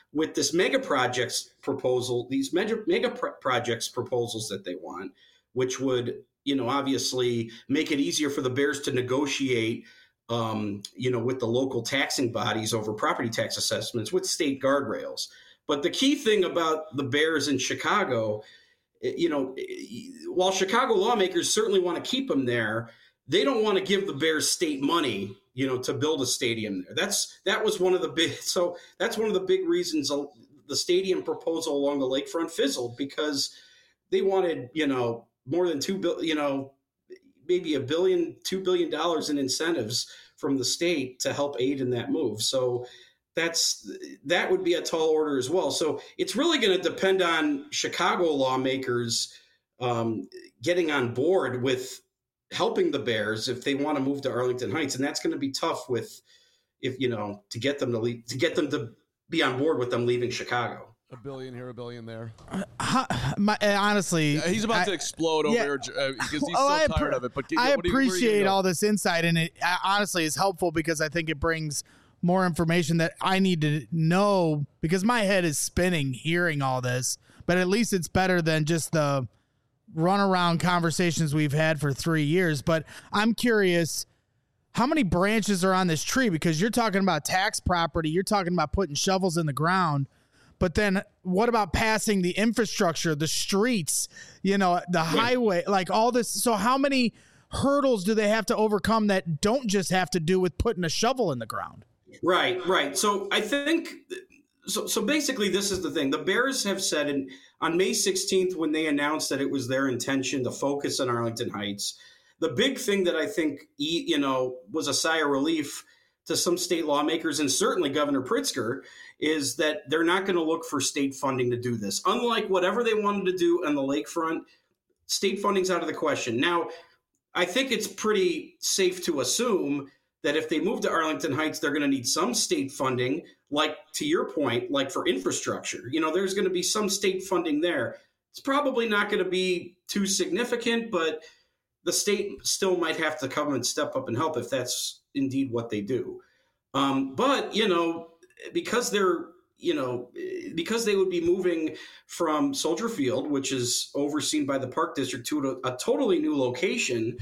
with this mega projects proposal, these mega, mega pro- projects proposals that they want, which would, you know, obviously make it easier for the Bears to negotiate, um, you know, with the local taxing bodies over property tax assessments with state guardrails. But the key thing about the Bears in Chicago, you know, while Chicago lawmakers certainly want to keep them there, they don't want to give the Bears state money, you know, to build a stadium there. That's that was one of the big. So that's one of the big reasons the stadium proposal along the lakefront fizzled, because they wanted, you know, more than two billion, you know, maybe a billion, two billion dollars in incentives from the state to help aid in that move. So that's that would be a tall order as well. So it's really going to depend on Chicago lawmakers um, getting on board with helping the Bears if they want to move to Arlington Heights, and that's going to be tough with if you know to get them to leave, to get them to be on board with them leaving Chicago. A billion here, a billion there. Uh, my, uh, honestly, yeah, he's about I, to explode over yeah, here uh, because he's well, so I tired appre- of it. But I what do you, appreciate go? all this insight, and it uh, honestly is helpful because I think it brings more information that I need to know, because my head is spinning hearing all this. But at least it's better than just the runaround conversations we've had for three years. But I'm curious, how many branches are on this tree? Because you're talking about tax property, you're talking about putting shovels in the ground. But then what about passing the infrastructure, the streets, you know, the highway, like all this? So how many hurdles do they have to overcome that don't just have to do with putting a shovel in the ground? Right, right. So I think so. So basically, this is the thing. The Bears have said in, on May sixteenth, when they announced that it was their intention to focus on Arlington Heights, the big thing that I think, you know, was a sigh of relief to some state lawmakers and certainly Governor Pritzker is that they're not going to look for state funding to do this. Unlike whatever they wanted to do on the lakefront, state funding's out of the question. Now, I think it's pretty safe to assume that if they move to Arlington Heights, they're going to need some state funding, like to your point, like for infrastructure. You know, there's going to be some state funding there. It's probably not going to be too significant, but the state still might have to come and step up and help if that's indeed what they do. Um, but, you know, because they're, you know, because they would be moving from Soldier Field, which is overseen by the Park District, to a, a totally new location,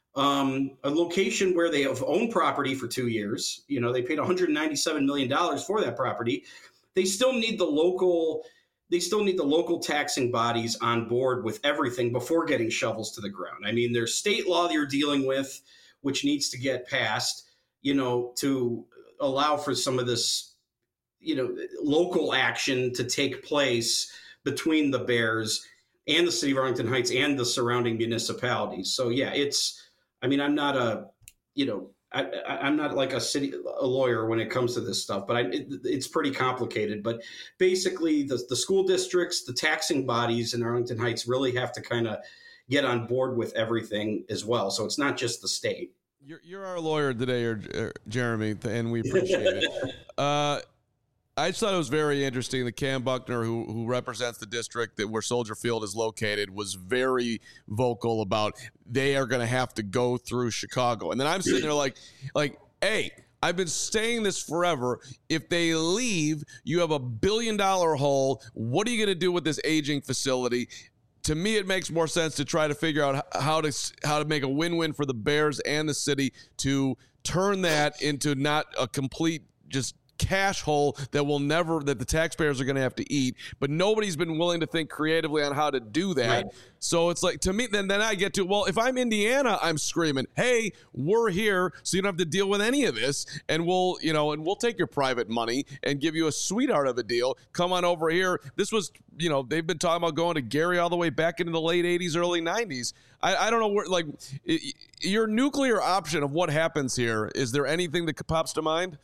Um, a location where they have owned property for two years. You know, they paid one hundred ninety-seven million dollars for that property. They still need the local, they still need the local taxing bodies on board with everything before getting shovels to the ground. I mean, there's state law that you're dealing with, which needs to get passed, you know, to allow for some of this, you know, local action to take place between the Bears and the city of Arlington Heights and the surrounding municipalities. So yeah, it's, I mean, I'm not a, you know, I, I, I'm not like a city a lawyer when it comes to this stuff, but I, it, it's pretty complicated. But basically, the the school districts, the taxing bodies in Arlington Heights really have to kind of get on board with everything as well. So it's not just the state. You're you're our lawyer today, or, or Jeremy, and we appreciate it. Uh, I just thought it was very interesting that Cam Buckner, who who represents the district that where Soldier Field is located, was very vocal about they are going to have to go through Chicago. And then I'm sitting there like, like, hey, I've been saying this forever. If they leave, you have a billion dollar hole. What are you going to do with this aging facility? To me, it makes more sense to try to figure out how to how to make a win-win for the Bears and the city to turn that into not a complete just cash hole that will never that the taxpayers are going to have to eat, but nobody's been willing to think creatively on how to do that. Right. So it's like, to me, then then I get to, well, if I'm Indiana, I'm screaming, hey, we're here, so you don't have to deal with any of this, and we'll, you know, and we'll take your private money and give you a sweetheart of a deal. Come on over here. This was, you know, they've been talking about going to Gary all the way back into the late eighties, early nineties. I, I don't know where, like, your nuclear option of what happens here, is there anything that pops to mind?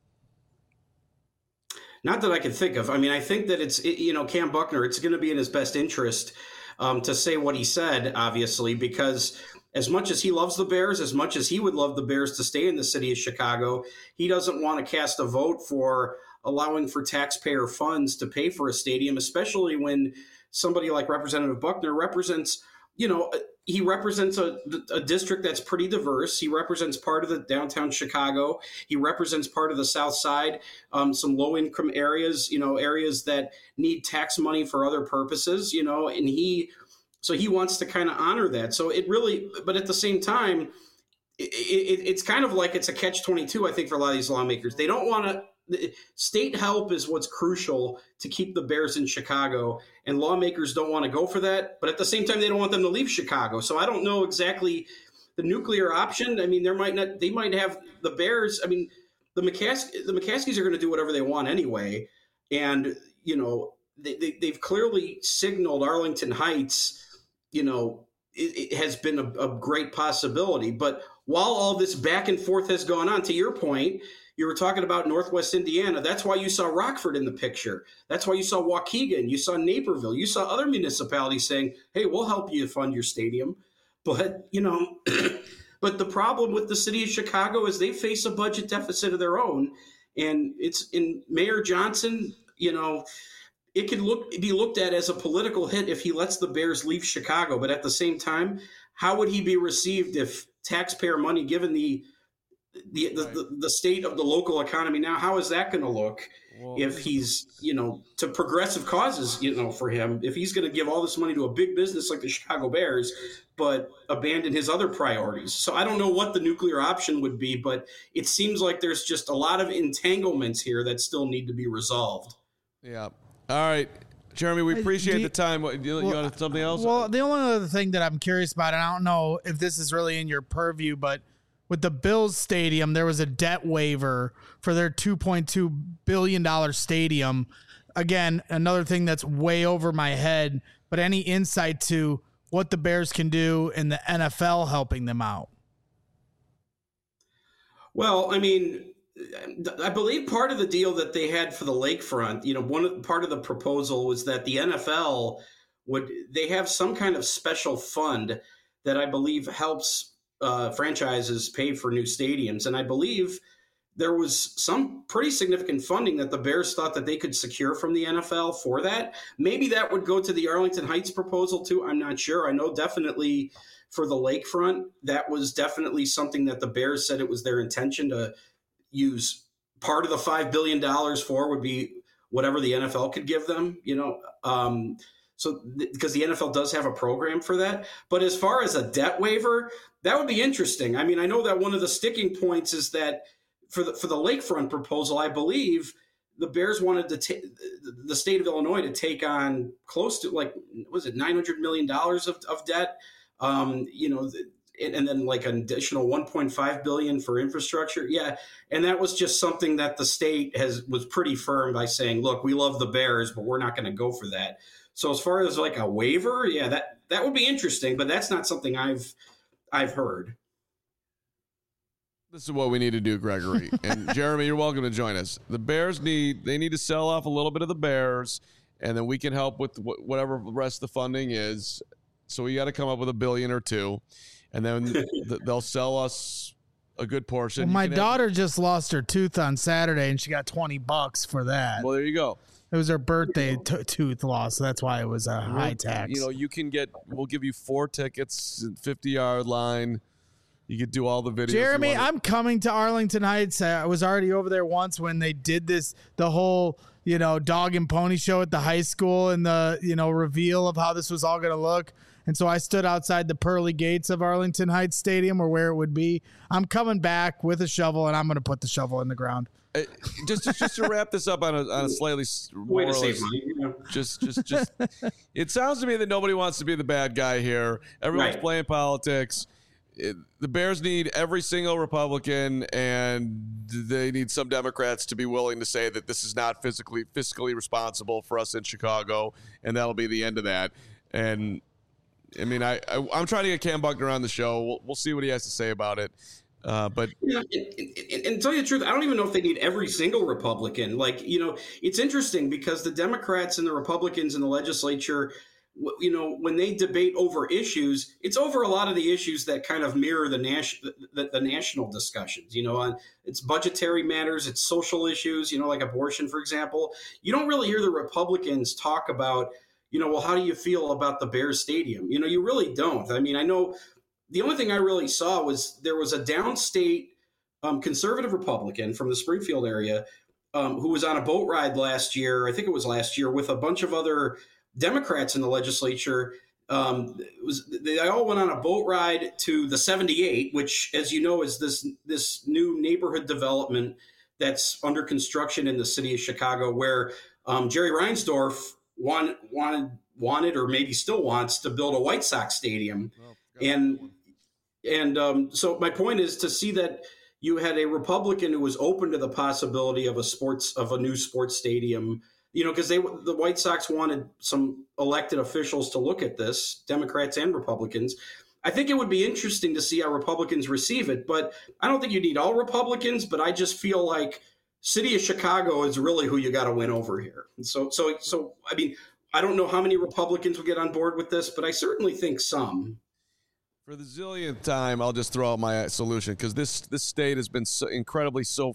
Not that I can think of. I mean, I think that it's, you know, Cam Buckner, it's going to be in his best interest um, to say what he said, obviously, because as much as he loves the Bears, as much as he would love the Bears to stay in the city of Chicago, he doesn't want to cast a vote for allowing for taxpayer funds to pay for a stadium, especially when somebody like Representative Buckner represents, you know, he represents a, a district that's pretty diverse. He represents part of the downtown Chicago. He represents part of the South Side, um, some low income areas, you know, areas that need tax money for other purposes, you know, and he, so he wants to kind of honor that. So it really, but at the same time, it, it, it's kind of like it's a catch twenty-two, I think, for a lot of these lawmakers. They don't want to. State help is what's crucial to keep the Bears in Chicago, and lawmakers don't want to go for that. But at the same time, they don't want them to leave Chicago. So I don't know exactly the nuclear option. I mean, there might not. They might have the Bears. I mean, the McCas- the McCaskies are going to do whatever they want anyway, and you know they, they, they've clearly signaled Arlington Heights. You know, it, it has been a, a great possibility. But while all this back and forth has gone on, to your point. You were talking about Northwest Indiana. That's why you saw Rockford in the picture. That's why you saw Waukegan. You saw Naperville. You saw other municipalities saying, hey, we'll help you fund your stadium. But, you know, but the problem with the city of Chicago is they face a budget deficit of their own. And it's in Mayor Johnson, you know, it could look be looked at as a political hit if he lets the Bears leave Chicago. But at the same time, how would he be received if taxpayer money, given the The, the, the the state of the local economy now, how is that going to look well, if he's, you know, to progressive causes, you know, for him, if he's going to give all this money to a big business like the Chicago Bears, but abandon his other priorities. So I don't know what the nuclear option would be, but it seems like there's just a lot of entanglements here that still need to be resolved. Yeah. All right. Jeremy, we appreciate you, the time. What, you, well, you want something else? Well, the only other thing that I'm curious about, and I don't know if this is really in your purview, but with the Bills stadium, there was a debt waiver for their two point two billion dollars stadium. Again, another thing that's way over my head, but any insight to what the Bears can do and the N F L helping them out? Well, I mean, I believe part of the deal that they had for the lakefront, you know, one part of the proposal was that the N F L would, they have some kind of special fund that I believe helps Uh, franchises pay for new stadiums. And I believe there was some pretty significant funding that the Bears thought that they could secure from the N F L for that. Maybe that would go to the Arlington Heights proposal too. I'm not sure. I know definitely for the lakefront, that was definitely something that the Bears said it was their intention to use. Part of the five billion dollars for would be whatever the N F L could give them, you know, um, So because the N F L does have a program for that. But as far as a debt waiver, that would be interesting. I mean, I know that one of the sticking points is that for the for the lakefront proposal, I believe the Bears wanted to take the state of Illinois to take on close to like, was it nine hundred million dollars of, of debt? Um, you know, and then like an additional one point five billion dollars for infrastructure. Yeah. And that was just something that the state has was pretty firm by saying, look, we love the Bears, but we're not going to go for that. So as far as like a waiver, yeah, that, that would be interesting, but that's not something I've I've heard. This is what we need to do, Gregory. And Jeremy, you're welcome to join us. The Bears need, they need to sell off a little bit of the Bears, and then we can help with wh- whatever the rest of the funding is. So we got to come up with a billion or two, and then th- they'll sell us a good portion. Well, my daughter have- just lost her tooth on Saturday, and she got twenty bucks for that. Well, there you go. It was her birthday t- tooth loss, so that's why it was a high tax. You know, you can get, we'll give you four tickets, fifty-yard line. You could do all the videos. Jeremy, I'm coming to Arlington Heights. I was already over there once when they did this, the whole, you know, dog and pony show at the high school and the, you know, reveal of how this was all going to look. And so I stood outside the pearly gates of Arlington Heights Stadium or where it would be. I'm coming back with a shovel, and I'm going to put the shovel in the ground. Uh, just, just, just to wrap this up on a, on a slightly way to save money. You know? Just, just, just. It sounds to me that nobody wants to be the bad guy here. Everyone's Right. playing politics. It, the Bears need every single Republican, and they need some Democrats to be willing to say that this is not physically fiscally responsible for us in Chicago, and that'll be the end of that. And I mean, I, I I'm trying to get Cam Buckner on the show. We'll, we'll see what he has to say about it. Uh, but you know, and, and, and tell you the truth, I don't even know if they need every single Republican. Like, you know, it's interesting because the Democrats and the Republicans in the legislature, you know, when they debate over issues, it's over a lot of the issues that kind of mirror the, nas- the, the national discussions, you know, on it's budgetary matters, it's social issues, you know, like abortion, for example. You don't really hear the Republicans talk about, you know, well, how do you feel about the Bears Stadium? You know, you really don't. I mean, I know the only thing I really saw was there was a downstate um, conservative Republican from the Springfield area um, who was on a boat ride last year. I think it was last year with a bunch of other Democrats in the legislature. Um, it was they all went on a boat ride to the seventy-eight, which, as you know, is this this new neighborhood development that's under construction in the city of Chicago, where um, Jerry Reinsdorf want, wanted wanted or maybe still wants to build a White Sox stadium. Oh, and and um, so my point is to see that you had a Republican who was open to the possibility of a sports of a new sports stadium. You know, because they the White Sox wanted some elected officials to look at this, Democrats and Republicans. I think it would be interesting to see how Republicans receive it, but I don't think you need all Republicans. But I just feel like city of Chicago is really who you got to win over here. And so, so, so I mean, I don't know how many Republicans will get on board with this, but I certainly think some. For the zillionth time, I'll just throw out my solution because this this state has been so incredibly so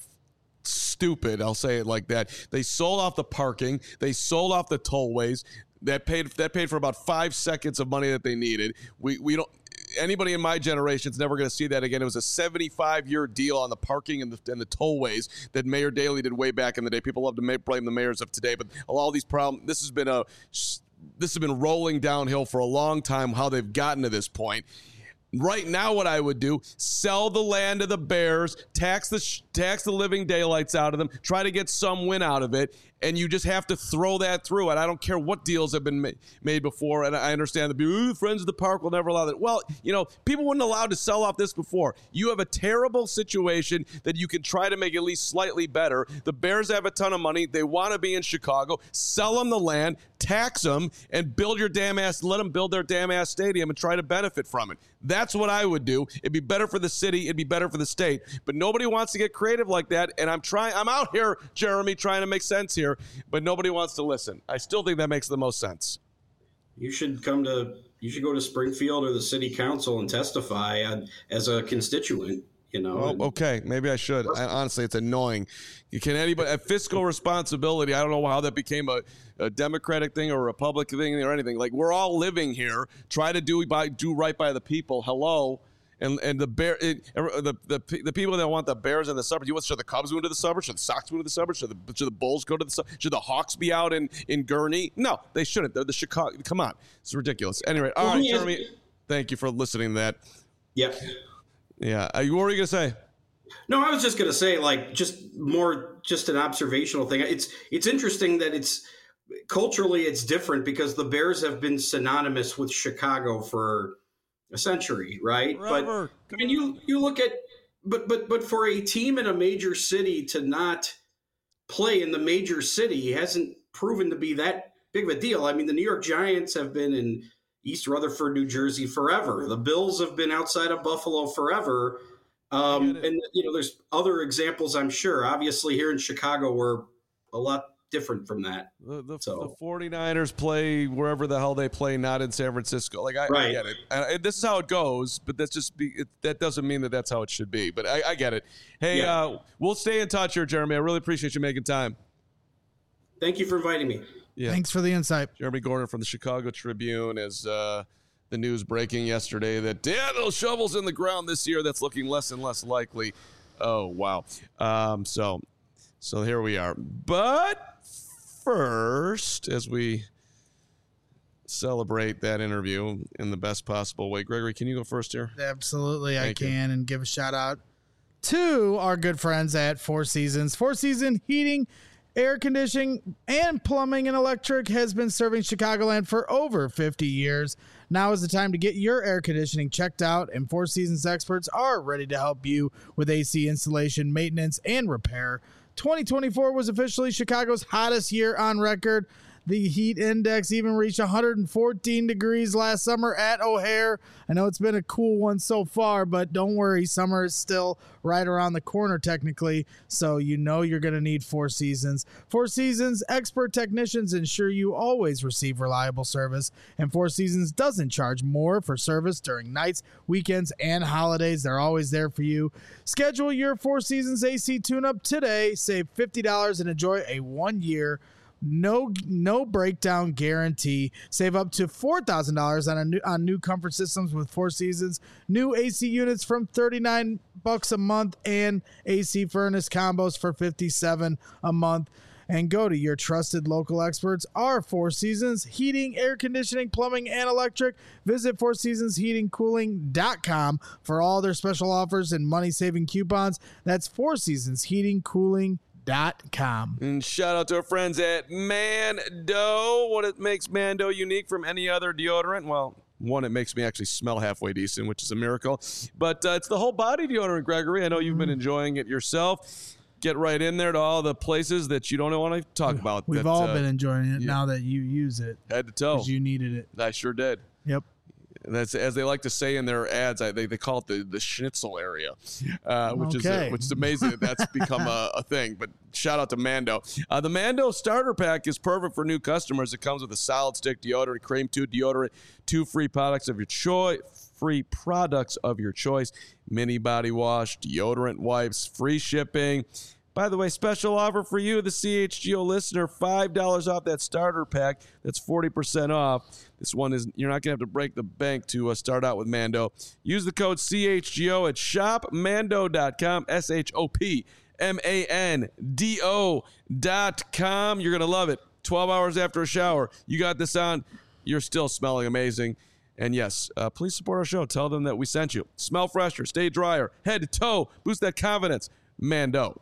stupid. I'll say it like that. They sold off the parking. They sold off the tollways. That paid that paid for about five seconds of money that they needed. We we don't. Anybody in my generation is never going to see that again. It was a seventy-five year deal on the parking and the, and the tollways that Mayor Daley did way back in the day. People love to ma- blame the mayors of today, but all these problems. This has been a this has been rolling downhill for a long time. How they've gotten to this point. Right now, what I would do, sell the land to the Bears, tax the tax the living daylights out of them, try to get some win out of it, and you just have to throw that through. And I don't care what deals have been ma- made before, and I understand the Ooh, Friends of the Park will never allow that. Well, you know, people weren't allowed to sell off this before. You have a terrible situation that you can try to make at least slightly better. The Bears have a ton of money. They want to be in Chicago. Sell them the land, tax them, and build your damn ass, let them build their damn ass stadium and try to benefit from it. That's what I would do. It'd be better for the city. It'd be better for the state. But nobody wants to get creative like that. And I'm trying, I'm out here, Jeremy, trying to make sense here, but nobody wants to listen. I still think that makes the most sense. You should come to, you should go to Springfield or the city council and testify on, as a constituent. You know, oh, okay, maybe I should. I, honestly, it's annoying. You can anybody a fiscal responsibility. I don't know how that became a, a Democratic thing or a Republican thing or anything. Like we're all living here. Try to do by do right by the people. Hello, and and the bear it, the, the the people that want the Bears in the suburbs. You want should the Cubs move to the suburbs? Should the Sox move to the suburbs? Should the should the Bulls go to the suburbs? Should the Hawks be out in in Gurney? No, they shouldn't. They're the Chicago. Come on, it's ridiculous. Anyway, all right, Jeremy. Thank you for listening to that. Yep. Yeah. What were you gonna say? No, I was just going to say, like, just more, just an observational thing. It's it's interesting that it's culturally it's different because the Bears have been synonymous with Chicago for a century, right? Forever. But I mean, you you look at, but but but for a team in a major city to not play in the major city hasn't proven to be that big of a deal. I mean, the New York Giants have been in East Rutherford, New Jersey forever. The Bills have been outside of Buffalo forever. Um, and, you know, there's other examples, I'm sure. Obviously, here in Chicago, we're a lot different from that. The, the, so. the 49ers play wherever the hell they play, not in San Francisco. Like, I, right. I get it. And this is how it goes, but that's just be, it, that doesn't mean that that's how it should be. But I, I get it. Hey, yeah. uh, we'll stay in touch here, Jeremy. I really appreciate you making time. Thank you for inviting me. Yeah. Thanks for the insight. Jeremy Gordon from the Chicago Tribune as uh, the news breaking yesterday that, yeah, those shovels in the ground this year, that's looking less and less likely. Oh, wow. Um, so, so here we are. But first, as we celebrate that interview in the best possible way, Gregory, can you go first here? Absolutely, Thank I can, you. And give a shout out to our good friends at Four Seasons. Four Season Heating, Air Conditioning, and Plumbing and Electric has been serving Chicagoland for over fifty years. Now is the time to get your air conditioning checked out, and Four Seasons experts are ready to help you with A C installation, maintenance, and repair. twenty twenty-four was officially Chicago's hottest year on record. The heat index even reached one hundred fourteen degrees last summer at O'Hare. I know it's been a cool one so far, but don't worry, summer is still right around the corner technically, so you know you're going to need Four Seasons. Four Seasons expert technicians ensure you always receive reliable service, and Four Seasons doesn't charge more for service during nights, weekends, and holidays. They're always there for you. Schedule your Four Seasons A C tune-up today. Save fifty dollars and enjoy a one-year No, no breakdown guarantee. Save up to four thousand dollars on a new on new comfort systems with Four Seasons. New A C units from thirty-nine bucks a month and A C furnace combos for fifty-seven a month. And go to your trusted local experts, our Four Seasons Heating, Air Conditioning, Plumbing, and Electric. Visit four seasons heating cooling dot com for all their special offers and money-saving coupons. That's four seasons heating cooling dot com. And shout out to our friends at Mando. What it makes Mando unique from any other deodorant? Well, one, it makes me actually smell halfway decent, which is a miracle. But uh, it's the whole body deodorant, Gregory. I know you've been enjoying it yourself. Get right in there to all the places that you don't want to talk about. We've that, all uh, been enjoying it yeah. now that you use it. Head to toe. Because you needed it. I sure did. Yep. That's, as they like to say in their ads, I, they, they call it the, the schnitzel area, uh, which Okay. is uh, which is amazing that that's become a, a thing. But shout out to Mando. Uh, the Mando starter pack is perfect for new customers. It comes with a solid stick deodorant, cream tube deodorant, two free products of your choice, free products of your choice, mini body wash, deodorant wipes, free shipping. By the way, special offer for you, the C H G O listener, five dollars off that starter pack. That's forty percent off. This one is, you're not going to have to break the bank to uh, start out with Mando. Use the code C H G O at shop mando dot com, S H O P M A N D O dot com. You're going to love it. twelve hours after a shower, you got this on, you're still smelling amazing. And yes, uh, please support our show. Tell them that we sent you. Smell fresher, stay drier, head to toe, boost that confidence. Mando.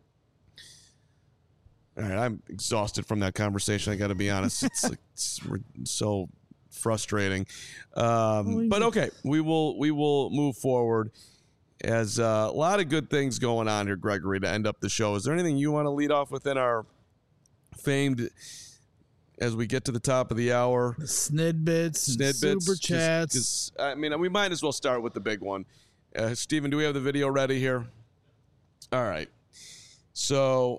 All right, I'm exhausted from that conversation. I got to be honest; it's, like, it's so frustrating. Um, but okay, we will we will move forward. As uh, a lot of good things going on here, Gregory. To end up the show, is there anything you want to lead off within our famed? As we get to the top of the hour, Snidbits, and Snidbits, super chats. Cause, 'cause, I mean, we might as well start with the big one. Uh, Steven, do we have the video ready here? All right, so.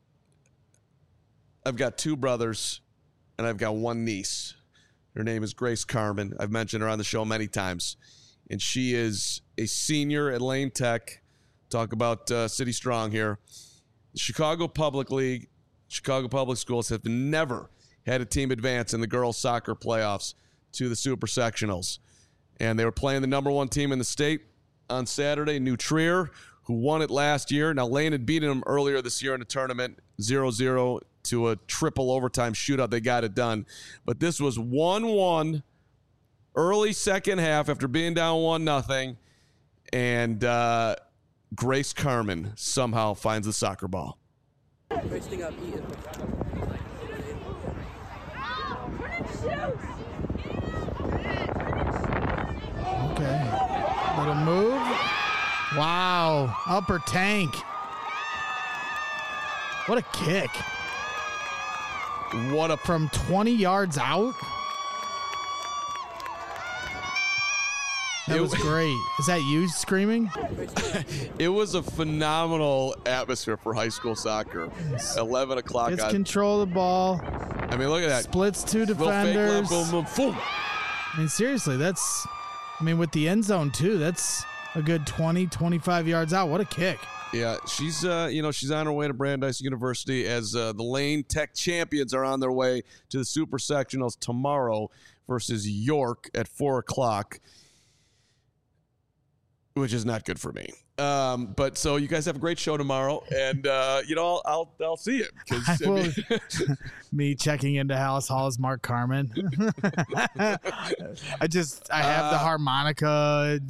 I've got two brothers, and I've got one niece. Her name is Grace Carmen. I've mentioned her on the show many times, and she is a senior at Lane Tech. Talk about uh, City Strong here. The Chicago Public League, Chicago Public Schools have never had a team advance in the girls' soccer playoffs to the Super Sectionals, and they were playing the number one team in the state on Saturday, New Trier, who won it last year. Now, Lane had beaten them earlier this year in the tournament, zero zero to a triple overtime shootout. They got it done. But this was one one early second half after being down one nothing. And uh, Grace Carmen somehow finds the soccer ball. Wasting up eating. Okay. Little move. Wow. Upper tank. What a kick. What a From twenty yards out? That It was w- great. Is that you screaming? It was a phenomenal atmosphere for high school soccer. eleven o'clock. Gets on, control of the ball. I mean, look at that. Splits two Little fake defenders. left, boom, boom, boom. I mean, seriously, that's, I mean, with the end zone, too, that's a good twenty, twenty-five yards out. What a kick. Yeah, she's uh, you know, she's on her way to Brandeis University as uh, the Lane Tech champions are on their way to the Super Sectionals tomorrow versus York at four o'clock, which is not good for me. Um, but so you guys have a great show tomorrow, and uh, you know, I'll I'll, I'll see it. 'Cause, I I will- mean, Me checking into Hallis Hall as Mark Carmen. I just, I have the Uh, harmonica.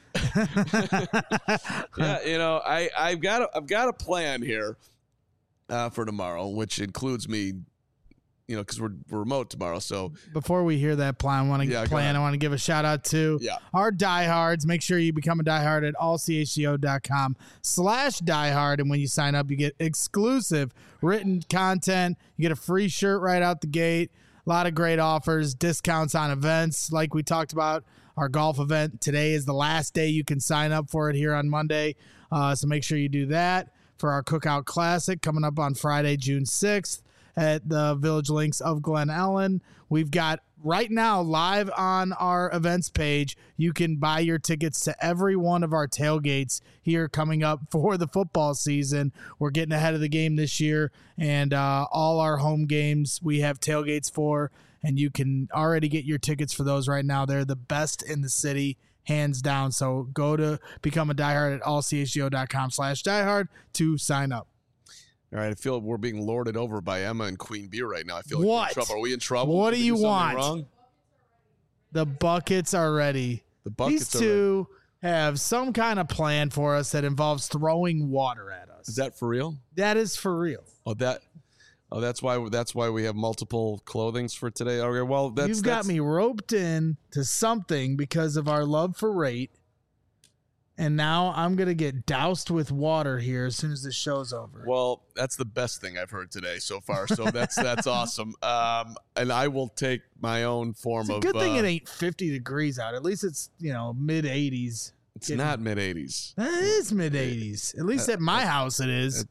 yeah, you know, I I've got a, I've got a plan here uh, for tomorrow, which includes me, you know, because we're, we're remote tomorrow. So Before we hear that plan, I want to Yeah, go plan. ahead. I want to give a shout out to Yeah. our diehards. Make sure you become a diehard at all c h g o dot com slash diehard. And when you sign up, you get exclusive written content. You get a free shirt right out the gate. A lot of great offers, discounts on events like we talked about. Our golf event today is the last day you can sign up for it here on Monday. Uh, so make sure you do that for our Cookout Classic coming up on Friday, June sixth at the Village Links of Glen Ellen. We've got right now, live on our events page, you can buy your tickets to every one of our tailgates here coming up for the football season. We're getting ahead of the game this year, and uh, all our home games we have tailgates for, and you can already get your tickets for those right now. They're the best in the city, hands down. So go to become a diehard at all c h g o dot com slash diehard to sign up. All right, I feel we're being lorded over by Emma and Queen Beer right now. I feel like What? we're in trouble. Are we in trouble? What Did do we you do something want? Wrong? The buckets are ready. The buckets These two have some kind of plan for us that involves throwing water at us. Is that for real? That is for real. Oh, that. Oh, that's why. That's why we have multiple clothings for today. Okay, well, that's You've got that's, me roped in to something because of our love for rate. And now I'm going to get doused with water here as soon as the show's over. Well, that's the best thing I've heard today so far. So that's that's awesome. Um, and I will take my own form It's a of. good thing uh, it ain't fifty degrees out. At least it's, you know, mid eighties. It's not mid eighties. That is mid eighties. At least at my house it is.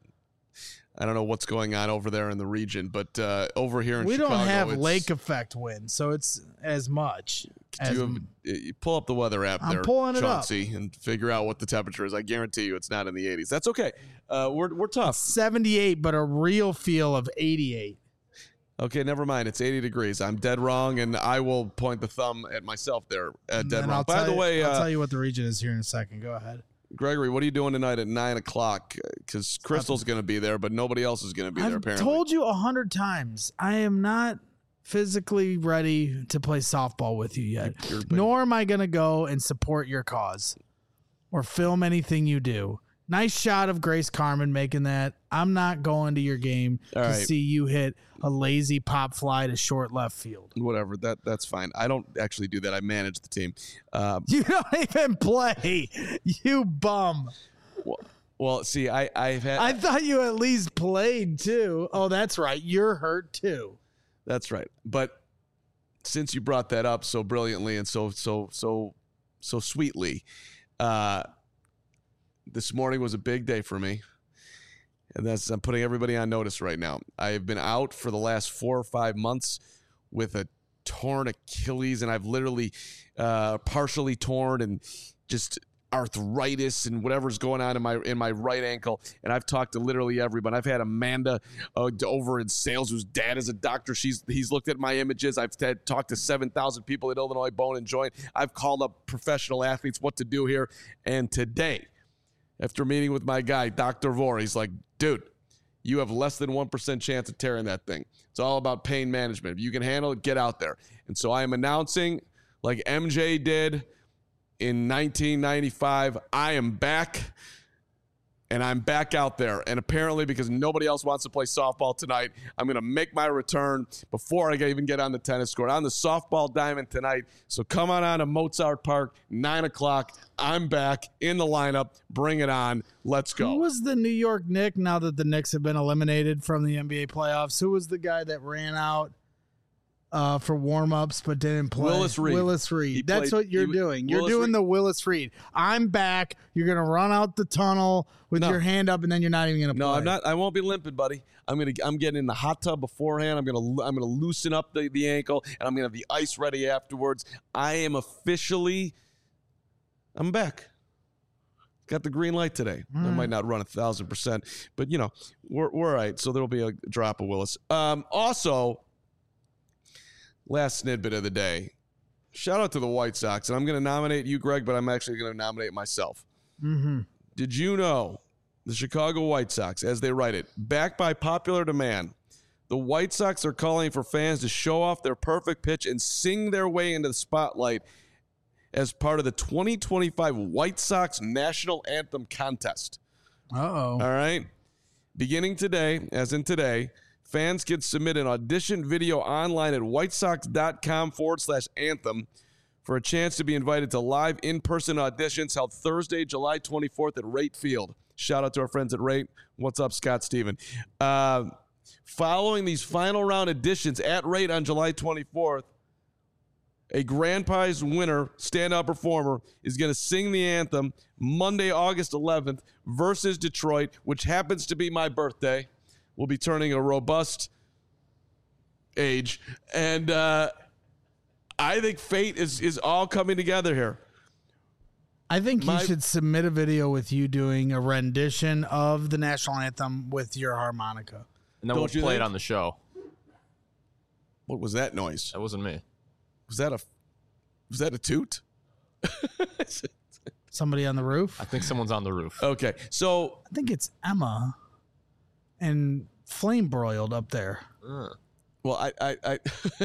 I don't know what's going on over there in the region, but uh, over here in We Chicago, don't have it's- lake effect wind, so it's as much. Do As, you, have, you pull up the weather app I'm there, pulling it up. Chauncey, and figure out what the temperature is. I guarantee you it's not in the eighties. That's okay. Uh, we're we're tough. seventy-eight, but a real feel of eighty-eight. Okay, never mind. It's eighty degrees. I'm dead wrong, and I will point the thumb at myself there. Uh, dead And wrong. I'll By tell the you- way, I'll uh, tell you what the region is here in a second. Go ahead. Gregory, what are you doing tonight at nine o'clock? Because Crystal's going to be there, but nobody else is going to be there. I've Apparently, told you a hundred times. I am not physically ready to play softball with you yet. You're- Nor am I going to go and support your cause or film anything you do. Nice shot of Grace Carmen making that. I'm not going to your game All to right. see you hit a lazy pop fly to short left field. whatever. That that's fine. I don't actually do that. I manage the team. Uh, You don't even play, you bum. well, well, see, I I've had. I thought you at least played too. Oh, that's right. You're hurt too. That's right. But since you brought that up so brilliantly and so so so so sweetly, uh, this morning was a big day for me. And that's I'm putting everybody on notice right now. I have been out for the last four or five months with a torn Achilles, and I've literally uh, partially torn and just arthritis and whatever's going on in my in my right ankle. And I've talked to literally everyone. I've had Amanda uh, over in sales, whose dad is a doctor. She's he's looked at my images. I've had, talked to seven thousand people at Illinois Bone and Joint. I've called up professional athletes what to do here. And today, after meeting with my guy, Doctor Vore, he's like, dude, you have less than one percent chance of tearing that thing. It's all about pain management. If you can handle it, get out there. And so I am announcing, like M J did in nineteen ninety-five, I am back, and I'm back out there. And apparently, because nobody else wants to play softball tonight, I'm going to make my return before I even get on the tennis court. On the softball diamond tonight. So come on on to Mozart Park, nine o'clock. I'm back in the lineup. Bring it on. Let's go. Who was the New York Knicks now that the Knicks have been eliminated from the N B A playoffs? Who was the guy that ran out uh, for warm-ups but didn't play? Willis Reed. Willis He Reed. That's played- what you're he- doing. You're Willis doing Reed- the Willis Reed. I'm back. You're going to run out the tunnel with No. your hand up, and then you're not even going to play. No, I'm not. I won't be limping, buddy. I'm gonna. I'm getting in the hot tub beforehand. I'm gonna. I'm gonna loosen up the, the ankle, and I'm gonna have the ice ready afterwards. I am officially. I'm back. Got the green light today. I might not run a thousand percent, but you know we're we're all right. So there'll be a drop of Willis. Um, also, last snippet of the day. Shout out to the White Sox, and I'm going to nominate you, Greg, but I'm actually going to nominate myself. Mm-hmm. Did you know the Chicago White Sox, as they write it, backed by popular demand, the White Sox are calling for fans to show off their perfect pitch and sing their way into the spotlight as part of the twenty twenty-five White Sox National Anthem Contest. Uh-oh. All right? Beginning today, as in today, fans can submit an audition video online at whitesox.com forward slash anthem for a chance to be invited to live in-person auditions held Thursday, July twenty-fourth at Rate Field. Shout out to our friends at Rate. What's up, Scott Steven? Uh, following these final round auditions at Rate on July twenty-fourth, a grand prize winner, standout performer, is going to sing the anthem Monday, August eleventh versus Detroit, which happens to be my birthday. We'll be turning a robust age. And uh, I think fate is is all coming together here. I think My- you should submit a video with you doing a rendition of the national anthem with your harmonica. And then Don't we'll you play think? it on the show. What was that noise? That wasn't me. Was that a was that a toot? Somebody on the roof? I think someone's on the roof. Okay, so I think it's Emma and flame broiled up there. Uh, well, I I, I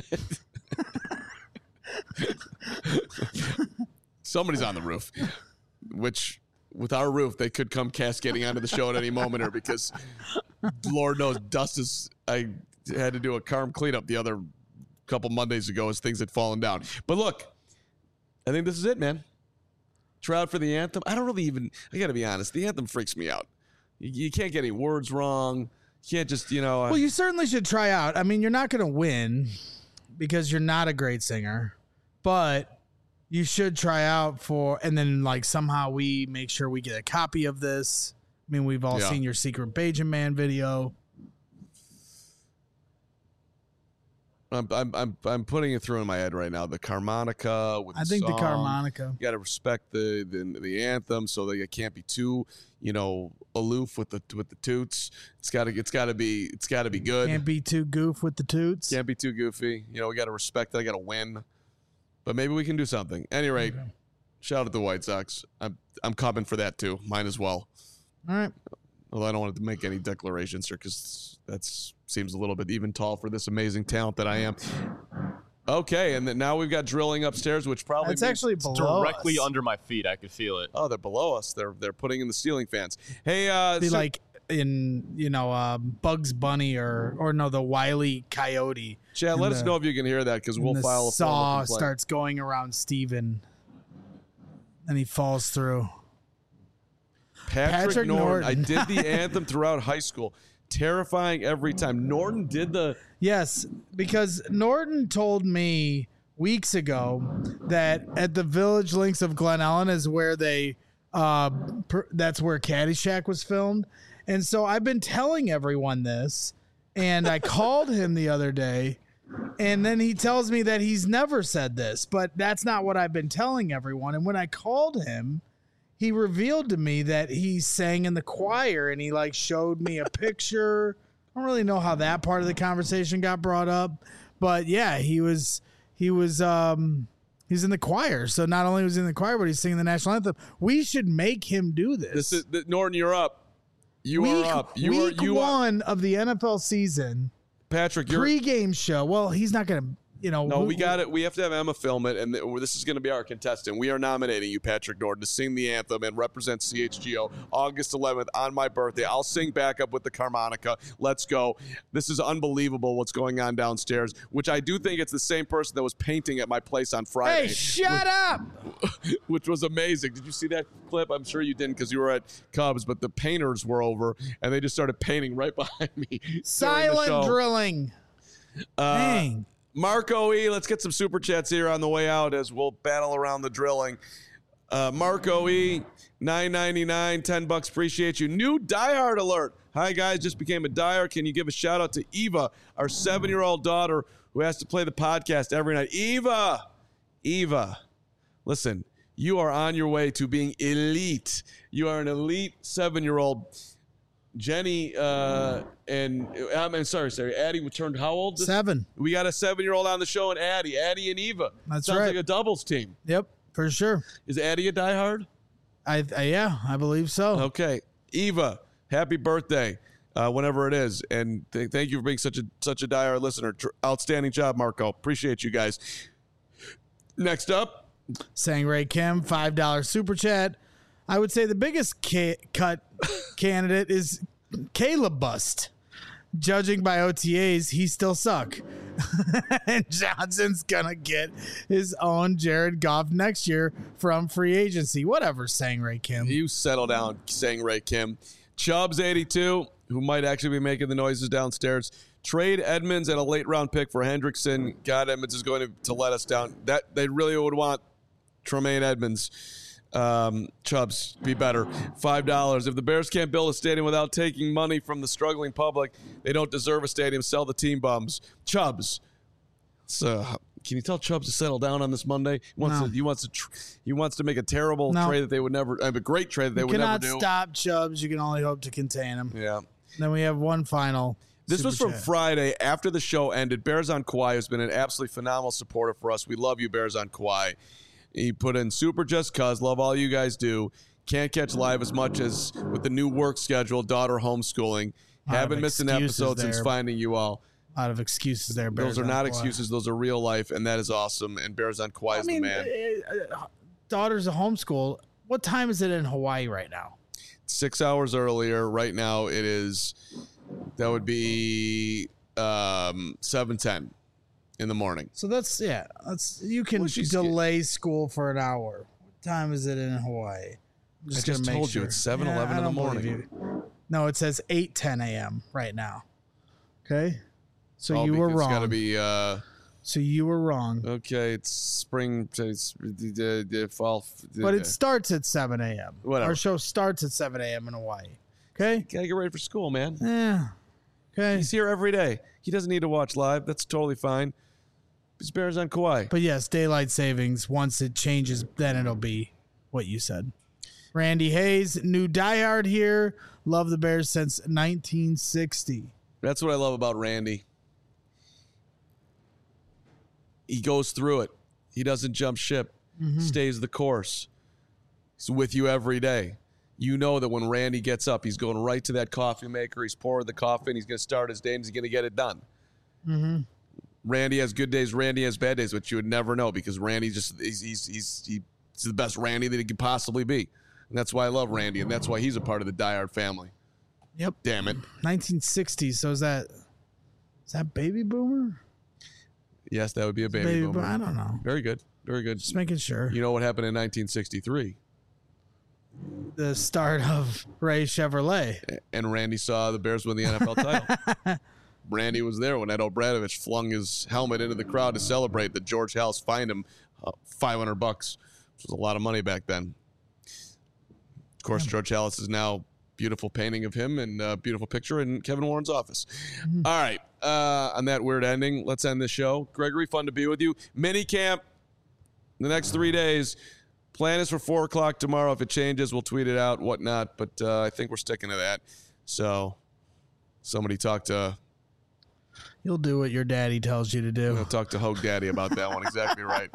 somebody's on the roof, which with our roof they could come cascading onto the show at any moment here because Lord knows dust is. I had to do a Carm cleanup the other couple Mondays ago as things had fallen down. But look, I think this is it, man. Try out for the anthem. I don't really even. I got to be honest. The anthem freaks me out. You, you can't get any words wrong. You can't just you know. Uh, Well, you certainly should try out. I mean, you're not going to win because you're not a great singer, but you should try out for, and then like somehow we make sure we get a copy of this. I mean, we've all Yeah. seen your Secret Bajan Man video. I'm, I'm I'm I'm putting it through in my head right now. The harmonica with I the think the song. harmonica. You got to respect the, the the anthem, so that you can't be too, you know, aloof with the with the toots. It's got to it's got to be it's got to be good. Can't be too goof with the toots. Can't be too goofy. You know, we got to respect that. I got to win, but maybe we can do something. At any rate, Okay. shout out to the White Sox. I'm I'm coming for that too. Mine as well. All right. Although I don't want to make any declarations here because that seems a little bit even tall for this amazing talent that I am. Okay, and then now we've got drilling upstairs, which probably It's means- actually below directly us. under my feet. I could feel it. Oh, they're below us. They're they're putting in the ceiling fans. Hey, uh, Be so- like in, you know, uh, Bugs Bunny or, or no, the Wile E. Coyote. Chad, and let us the- know if you can hear that because we'll and the file a saw formal complaint. starts going around Steven and he falls through. Patrick, Patrick Norton. I Norton. did the anthem throughout high school. Terrifying every time. Norton did the. Yes, because Norton told me weeks ago that at the Village Links of Glen Ellen is where they, uh, per, that's where Caddyshack was filmed. And so I've been telling everyone this, and I called him the other day, and then he tells me that he's never said this, but that's not what I've been telling everyone. And when I called him, he revealed to me that he sang in the choir, and he like showed me a picture. I don't really know how that part of the conversation got brought up, but yeah, he was he was um he's in the choir. So not only was he in the choir, but he's singing the national anthem. We should make him do this. This is the, Norton. You're up. You week, are up. You week are you are one of the N F L season Patrick. You're pre-game show. Well, he's not gonna. You know, No, we got it. We have to have Emma film it, and th- this is going to be our contestant. We are nominating you, Patrick Norton, to sing the anthem and represent C H G O August eleventh on my birthday. I'll sing back up with the harmonica. Let's go. This is unbelievable what's going on downstairs, which I do think it's the same person that was painting at my place on Friday. Hey, shut up! Which was amazing. Did you see that clip? I'm sure you didn't because you were at Cubs, but the painters were over, and they just started painting right behind me. during the Silent show. drilling. Uh, Dang. Marco E, let's get some super chats here on the way out as we'll battle around the drilling. Uh, Marco E, nine ninety-nine, ten bucks. Appreciate you. New diehard alert. Hi guys, just became a diehard. Can you give a shout out to Eva, our seven-year-old daughter who has to play the podcast every night? Eva, Eva, listen, you are on your way to being elite. You are an elite seven-year-old. Jenny uh, and I'm mean, sorry, sorry. Addie turned how old? This- Seven. We got a seven-year-old on the show, and Addie, Addie and Eva. That's Sounds right. like a doubles team. Yep, for sure. Is Addie a diehard? I, I yeah, I believe so. Okay, Eva, happy birthday, uh, whenever it is, and th- thank you for being such a such a diehard listener. Tr- outstanding job, Marco. Appreciate you guys. Next up, Sang Ray Kim, five dollar super chat. I would say the biggest ca- cut candidate is Caleb Bust. Judging by O T As, he still suck. And Johnson's gonna get his own Jared Goff next year from free agency. Whatever, Sang Ray Kim. you settle down, saying Ray Kim. Chubbs eighty-two, who might actually be making the noises downstairs. Trade Edmonds and a late round pick for Hendrickson. God, Edmonds is going to, to let us down. That they really would want Tremaine Edmonds. Um, Chubbs, be better. Five dollars. If the Bears can't build a stadium without taking money from the struggling public, they don't deserve a stadium. Sell the team bums. Chubbs. So Can you tell Chubbs to settle down on this Monday? He wants No. to. He wants to. Tr- he wants to make a terrible No. trade that they would never. I mean, a great trade that they You would never cannot do. stop Chubbs. You can only hope to contain him. Yeah. Then we have one final. This super was from chat. Friday after the show ended. Bears on Kauai has been an absolutely phenomenal supporter for us. We love you, Bears on Kauai. He put in super just cuz. Love all you guys do. Can't catch live as much as with the new work schedule, daughter homeschooling. Lot of Haven't missed an excuses episode since there. finding you all. A lot of excuses there. Bears Those are on not Kauai. excuses. Those are real life, and that is awesome. And Bears on Kauai I is mean, the man. uh, uh, daughter's a homeschool. What time is it in Hawaii right now? Six hours earlier. Right now, it is. That would be um, seven ten in the morning. So that's yeah. That's you can Well, she's- delay school for an hour. What time is it in Hawaii? I'm I just gonna make told you sure. it's seven eleven I in the don't believe morning. you. No, it says eight ten a.m. right now. Okay, so Oh, you were because wrong. It's got to be. Uh, so you were wrong. okay, it's spring. It's the, the fall. But it starts at seven a.m. Whatever. Our show starts at seven a.m. in Hawaii. Okay. Gotta get ready for school, man. Yeah. Okay. He's here every day. He doesn't need to watch live. That's totally fine. It's Bears on Kauai. But yes, daylight savings. Once it changes, then it'll be what you said. Randy Hayes, new diehard here. Love the Bears since nineteen sixty. That's what I love about Randy. He goes through it. He doesn't jump ship. Mm-hmm. Stays the course. He's with you every day. You know that when Randy gets up, he's going right to that coffee maker. He's pouring the coffee, and he's going to start his day, and he's going to get it done. Mm-hmm. Randy has good days. Randy has bad days, which you would never know because Randy just he's he's he's, he's the best Randy that he could possibly be, and that's why I love Randy, and that's why he's a part of the diehard family. Yep. Damn it. nineteen sixty. So is that is that baby boomer? Yes, that would be a baby, Baby boomer. boomer. I don't know. Very good. Very good. Just making sure. You know what happened in nineteen sixty-three? The start of Ray Chevrolet. And Randy saw the Bears win the N F L title. Randy was there when Ed O'Bradovich flung his helmet into the crowd to celebrate that George House fined him uh, five hundred bucks, which was a lot of money back then. Of course, George Hallis is now beautiful painting of him and a beautiful picture in Kevin Warren's office. Mm-hmm. All right. Uh, on that weird ending, let's end the show. Gregory, fun to be with you. Mini camp the next three days. Plan is for four o'clock tomorrow. If it changes, we'll tweet it out, whatnot. But uh, I think we're sticking to that. So somebody talk to... You'll do what your daddy tells you to do. I'm going to talk to Hogue Daddy about that one. Exactly right.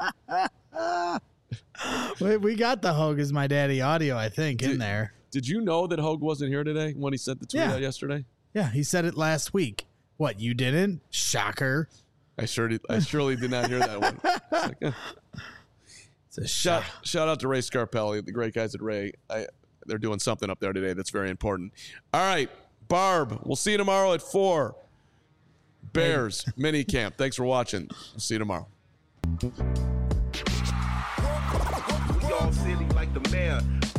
we, we got the Hogue is my daddy audio, I think, in Did- there. Did you know that Hogue wasn't here today when he sent the tweet Yeah. out yesterday? Yeah, he said it last week. What, you didn't? Shocker. I sure did, I surely did not hear that one. It's like, eh. It's a Shout, shock. shout out to Ray Scarpelli, the great guys at Ray. I, they're doing something up there today that's very important. All right, Barb, we'll see you tomorrow at four. Bears mini camp. Thanks for watching. We'll see you tomorrow. We all silly like the mayor.